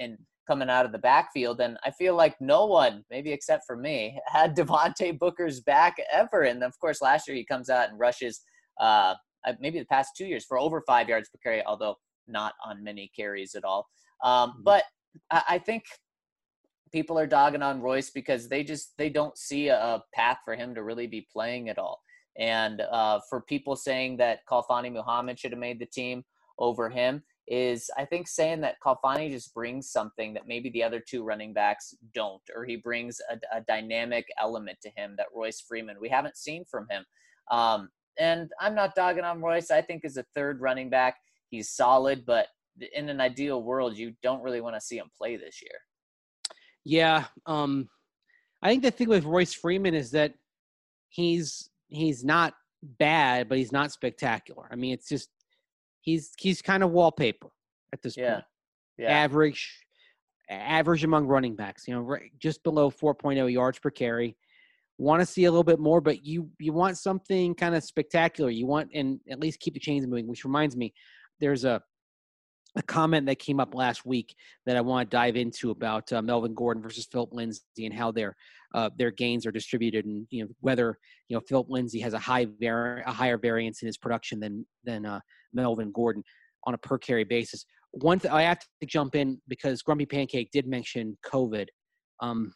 coming out of the backfield. And I feel like no one, maybe except for me, had Devontae Booker's back ever. And of course, last year he comes out and rushes uh, maybe the past two years for over five yards per carry, although not on many carries at all. Um, Mhm. But I, I think people are dogging on Royce because they just they don't see a, a path for him to really be playing at all. And uh, for people saying that Khalfani Muhammad should have made the team over him is, I think, saying that Khalfani just brings something that maybe the other two running backs don't, or he brings a, a dynamic element to him that Royce Freeman we haven't seen from him. Um, and I'm not dogging on Royce. I think as a third running back, he's solid, but in an ideal world, you don't really want to see him play this year. Yeah, um, I think the thing with Royce Freeman is that he's he's not bad, but he's not spectacular. I mean, it's just he's he's kind of wallpaper at this Yeah. point. Yeah. Average, average among running backs. You know, right, just below four point oh yards per carry. Want to see a little bit more, but you you want something kind of spectacular. You want and at least keep the chains moving. Which reminds me, there's a a comment that came up last week that I want to dive into about uh, Melvin Gordon versus Philip Lindsay and how their uh, their gains are distributed, and you know whether you know Philip Lindsay has a high var- a higher variance in his production than than uh, Melvin Gordon on a per carry basis. One thing I have to jump in because Grumpy Pancake did mention COVID. Um,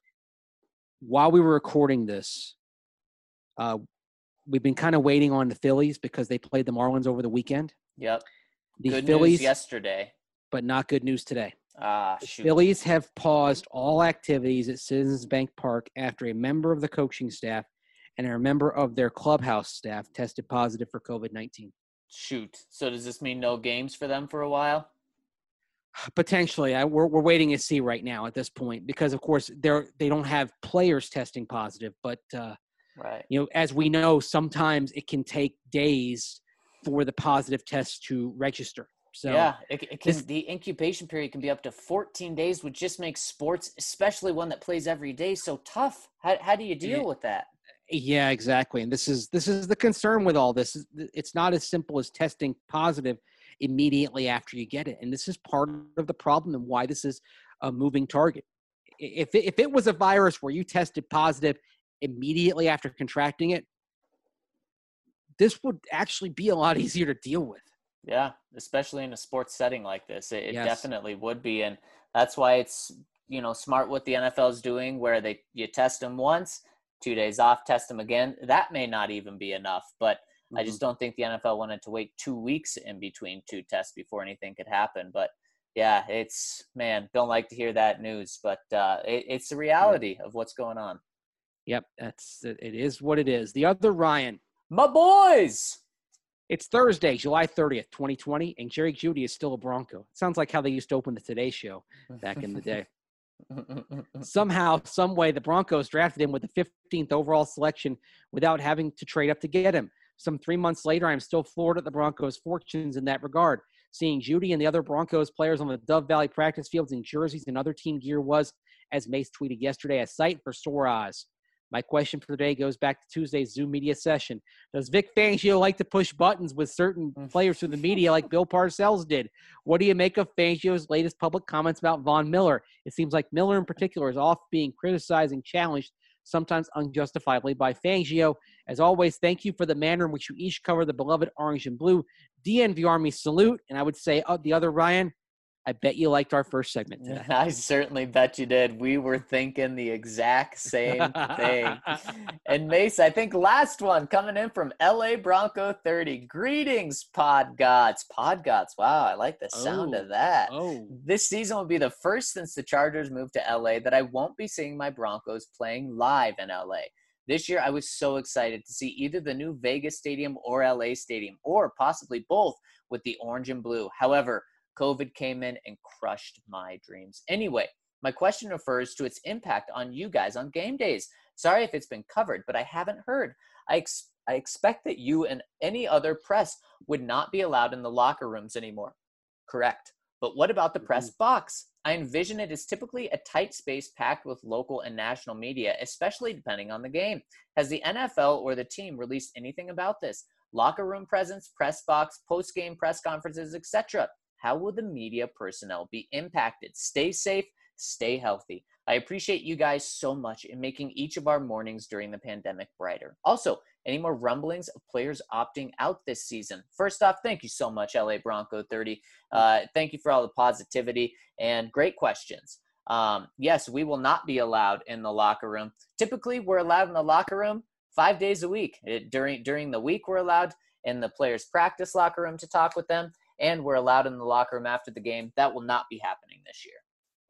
while we were recording this, uh, we've been kind of waiting on the Phillies because they played the Marlins over the weekend. Yep. The Good Phillies news yesterday. but not good news today. Ah, The shoot. Phillies have paused all activities at Citizens Bank Park after a member of the coaching staff and a member of their clubhouse staff tested positive for COVID nineteen. Shoot. So does this mean no games for them for a while? Potentially, I, we're we're waiting to see right now at this point because, of course, they're they don't have players testing positive. But uh, Right. you know, as we know, sometimes it can take days for the positive test to register. So yeah, it, it can. this- The incubation period can be up to fourteen days, which just makes sports, especially one that plays every day, so tough. How how do you deal Yeah. with that? Yeah, exactly. And this is this is the concern with all this. It's not as simple as testing positive immediately after you get it. And this is part of the problem and why this is a moving target. If it, if it was a virus where you tested positive immediately after contracting it, this would actually be a lot easier to deal with. Yeah, especially in a sports setting like this, it, it Yes. definitely would be, and that's why it's you know smart what the N F L is doing, where they you test them once, two days off, test them again. That may not even be enough, but I just don't think the N F L wanted to wait two weeks in between two tests before anything could happen. But yeah, it's man, don't like to hear that news, but uh, it, it's the reality of what's going on. Yep, that's it is what it is. The other Ryan, My boys. it's Thursday, July thirtieth, twenty twenty, and Jerry Jeudy is still a Bronco. It sounds like how they used to open the Today Show back in the day. Somehow, some way, the Broncos drafted him with the fifteenth overall selection without having to trade up to get him. Some three months later, I'm still floored at the Broncos' fortunes in that regard. Seeing Jeudy and the other Broncos players on the Dove Valley practice fields in jerseys and other team gear was, as Mace tweeted yesterday, a sight for sore eyes. My question for today goes back to Tuesday's Zoom media session. Does Vic Fangio like to push buttons with certain players through the media like Bill Parcells did? What do you make of Fangio's latest public comments about Von Miller? It seems like Miller in particular is off being criticized and challenged, sometimes unjustifiably, by Fangio. As always, thank you for the manner in which you each cover the beloved orange and blue. D N V Army salute. And I would say, uh, the other Ryan, I bet you liked our first segment today. I certainly bet you did. We were thinking the exact same thing. And Mace, I think last one coming in from L A Bronco thirty. Greetings, Pod Gods. Pod Gods. Wow, I like the sound Oh, of that. Oh, This season will be the first since the Chargers moved to L A that I won't be seeing my Broncos playing live in L A. This year, I was so excited to see either the new Vegas Stadium or L A Stadium, or possibly both with the orange and blue. However, COVID came in and crushed my dreams. Anyway, my question refers to its impact on you guys on game days. Sorry if it's been covered, but I haven't heard. I, ex- I expect that you and any other press would not be allowed in the locker rooms anymore. Correct. But what about the press box? I envision it as typically a tight space packed with local and national media, especially depending on the game. Has the N F L or the team released anything about this? Locker room presence, press box, post-game press conferences, et cetera. How will the media personnel be impacted? Stay safe, stay healthy. I appreciate you guys so much in making each of our mornings during the pandemic brighter. Also, any more rumblings of players opting out this season? First off, thank you so much, L A Bronco thirty. Uh, thank you for all the positivity and great questions. Um, yes, we will not be allowed in the locker room. Typically, we're allowed in the locker room five days a week. It, during during the week, we're allowed in the players' practice locker room to talk with them, and we're allowed in the locker room after the game. That will not be happening this year.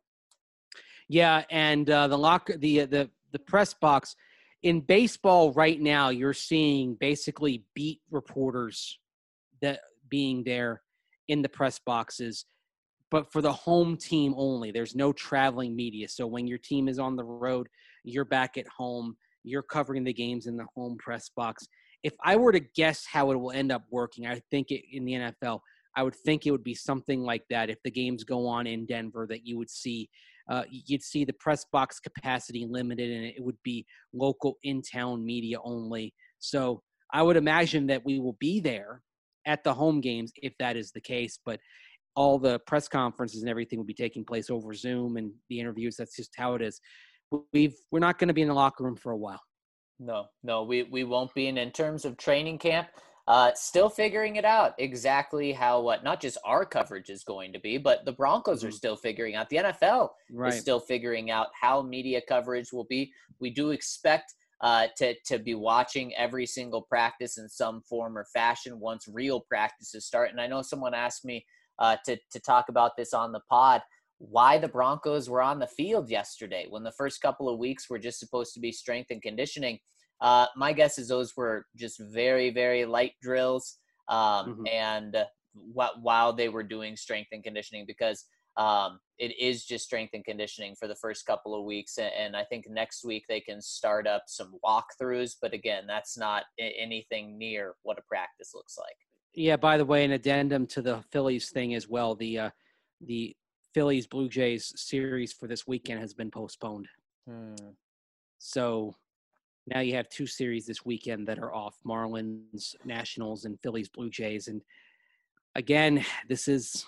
Yeah, and uh, the locker, the the the press box in baseball right now, you're seeing basically beat reporters that being there in the press boxes, but for the home team only. There's no traveling media. So when your team is on the road, you're back at home. You're covering the games in the home press box. If I were to guess how it will end up working, I think it, in the N F L, I would think it would be something like that. If the games go on in Denver, that you would see, uh, you'd see the press box capacity limited, and it would be local in-town media only. So I would imagine that we will be there at the home games if that is the case. But all the press conferences and everything will be taking place over Zoom, and the interviews. That's just how it is. We've we're not going to be in the locker room for a while. No, no, we we won't be. And in terms of training camp, Uh, still figuring it out exactly how what not just our coverage is going to be, but the Broncos are still figuring out. The N F L Right. is still figuring out how media coverage will be. We do expect uh, to to be watching every single practice in some form or fashion once real practices start. And I know someone asked me uh, to to talk about this on the pod, why the Broncos were on the field yesterday when the first couple of weeks were just supposed to be strength and conditioning. Uh, my guess is those were just very, very light drills um, Mm-hmm. and uh, wh- while they were doing strength and conditioning, because um, it is just strength and conditioning for the first couple of weeks. And, and I think next week they can start up some walkthroughs. But again, that's not I- anything near what a practice looks like. Yeah, by the way, an addendum to the Phillies thing as well. The uh, the Phillies Blue Jays series for this weekend has been postponed. Hmm. So now you have two series this weekend that are off: Marlins, Nationals, and Phillies Blue Jays. And again, this is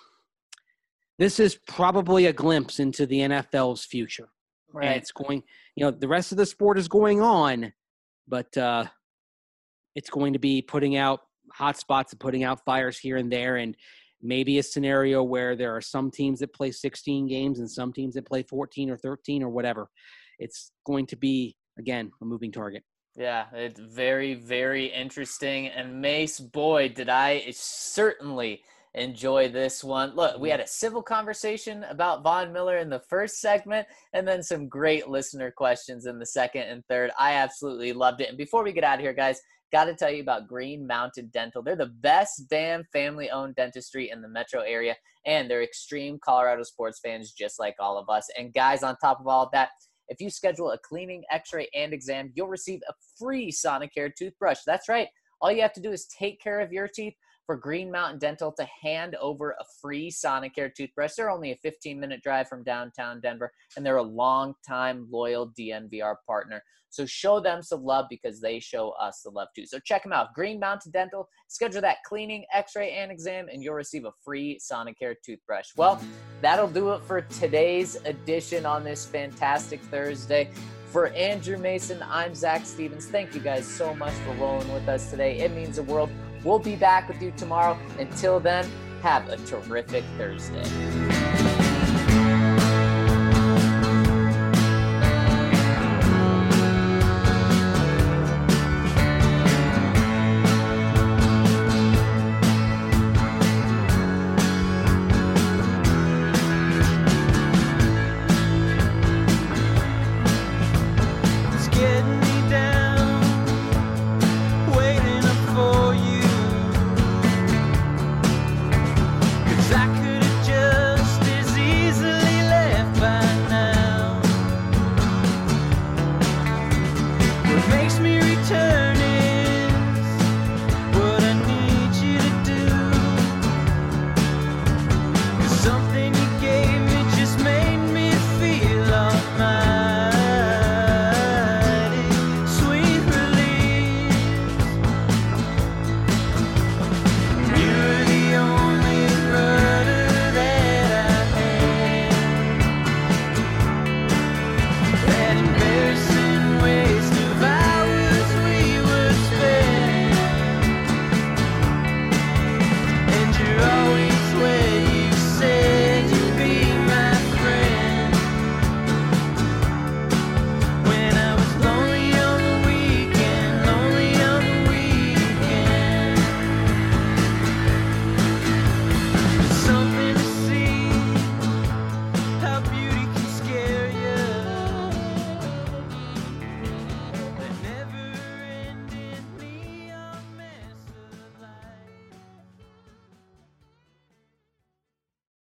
this is probably a glimpse into the N F L's future. Right. And it's going, you know, the rest of the sport is going on, but uh, it's going to be putting out hot spots and putting out fires here and there, and maybe a scenario where there are some teams that play sixteen games and some teams that play fourteen or thirteen or whatever. It's going to be, again, a moving target. Yeah, it's very, very interesting. And Mace, boy, did I certainly enjoy this one. Look, we had a civil conversation about Von Miller in the first segment, and then some great listener questions in the second and third. I absolutely loved it. And before we get out of here, guys, got to tell you about Green Mountain Dental. They're the best damn family-owned dentistry in the metro area, and they're extreme Colorado sports fans just like all of us. And guys, on top of all of that, if you schedule a cleaning, x-ray, and exam, you'll receive a free Sonicare toothbrush. That's right. All you have to do is take care of your teeth for Green Mountain Dental to hand over a free Sonicare toothbrush. They're only a fifteen-minute drive from downtown Denver, and they're a long-time loyal D N V R partner. So show them some love because they show us the love too. So check them out, Green Mountain Dental. Schedule that cleaning, x-ray, and exam, and you'll receive a free Sonicare toothbrush. Well, that'll do it for today's edition on this fantastic Thursday. For Andrew Mason, I'm Zach Stevens. Thank you guys so much for rolling with us today. It means the world. We'll be back with you tomorrow. Until then, have a terrific Thursday.